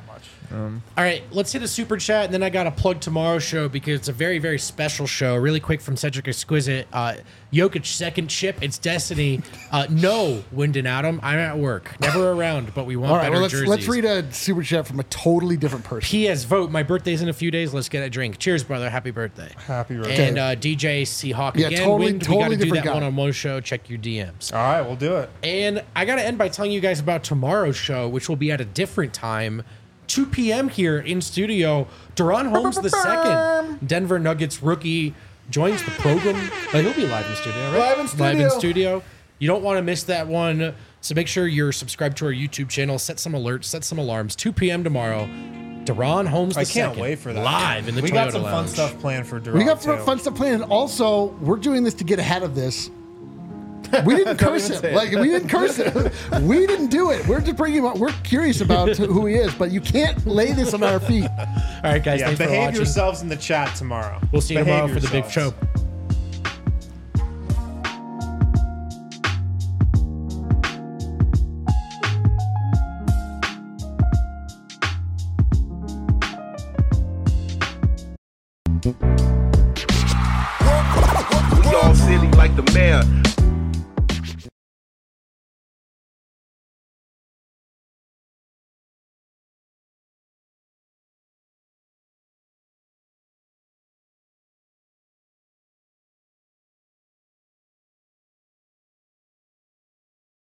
S2: All right, let's hit a super chat, and then I got to plug tomorrow's show because it's a very, very special show. Really quick from Cedric Exquisite. Jokic second chip. It's Destiny. No, Wyndon Adam. I'm at work. Never around, but we want
S4: All right,
S2: better
S4: well,
S2: jerseys.
S4: let's read a super chat from a totally different person.
S2: P.S. Vote. My birthday's in a few days. Let's get a drink. Cheers, brother. Happy birthday.
S3: Happy birthday.
S2: And DJ Seahawk
S4: Yeah,
S2: again.
S4: totally-
S2: Wind,
S4: totally
S2: we got to do
S4: different
S2: that
S4: guy.
S2: one-on-one show. Check your DMs.
S3: All right, we'll do it.
S2: And I got to end by telling you guys about tomorrow's show, which will be at a different time, 2 p.m. here in studio. Deron Holmes II, Denver Nuggets rookie, joins the program. He'll be live in studio, right?
S1: Live in studio.
S2: Live in studio. You don't want to miss that one. So make sure you're subscribed to our YouTube channel. Set some alerts. Set some alarms. 2 p.m. tomorrow. Deron Holmes II.
S3: I can't wait for that.
S2: Live in the
S3: we
S2: Toyota
S3: got some
S2: Lounge.
S3: fun stuff planned for Durant.
S4: We got
S3: too.
S4: fun stuff planned. And also, we're doing this to get ahead of this. We didn't curse him. Like, we didn't curse him. We didn't do it. We're just bringing him up. We're curious about who he is, but you can't lay this on our feet.
S2: All right, guys.
S3: Yeah,
S2: Thanks for
S3: behave
S2: watching.
S3: yourselves in the chat tomorrow.
S2: We'll see you
S3: Behave
S2: tomorrow for the big
S3: yourselves.
S2: show.
S6: We all silly like the mayor.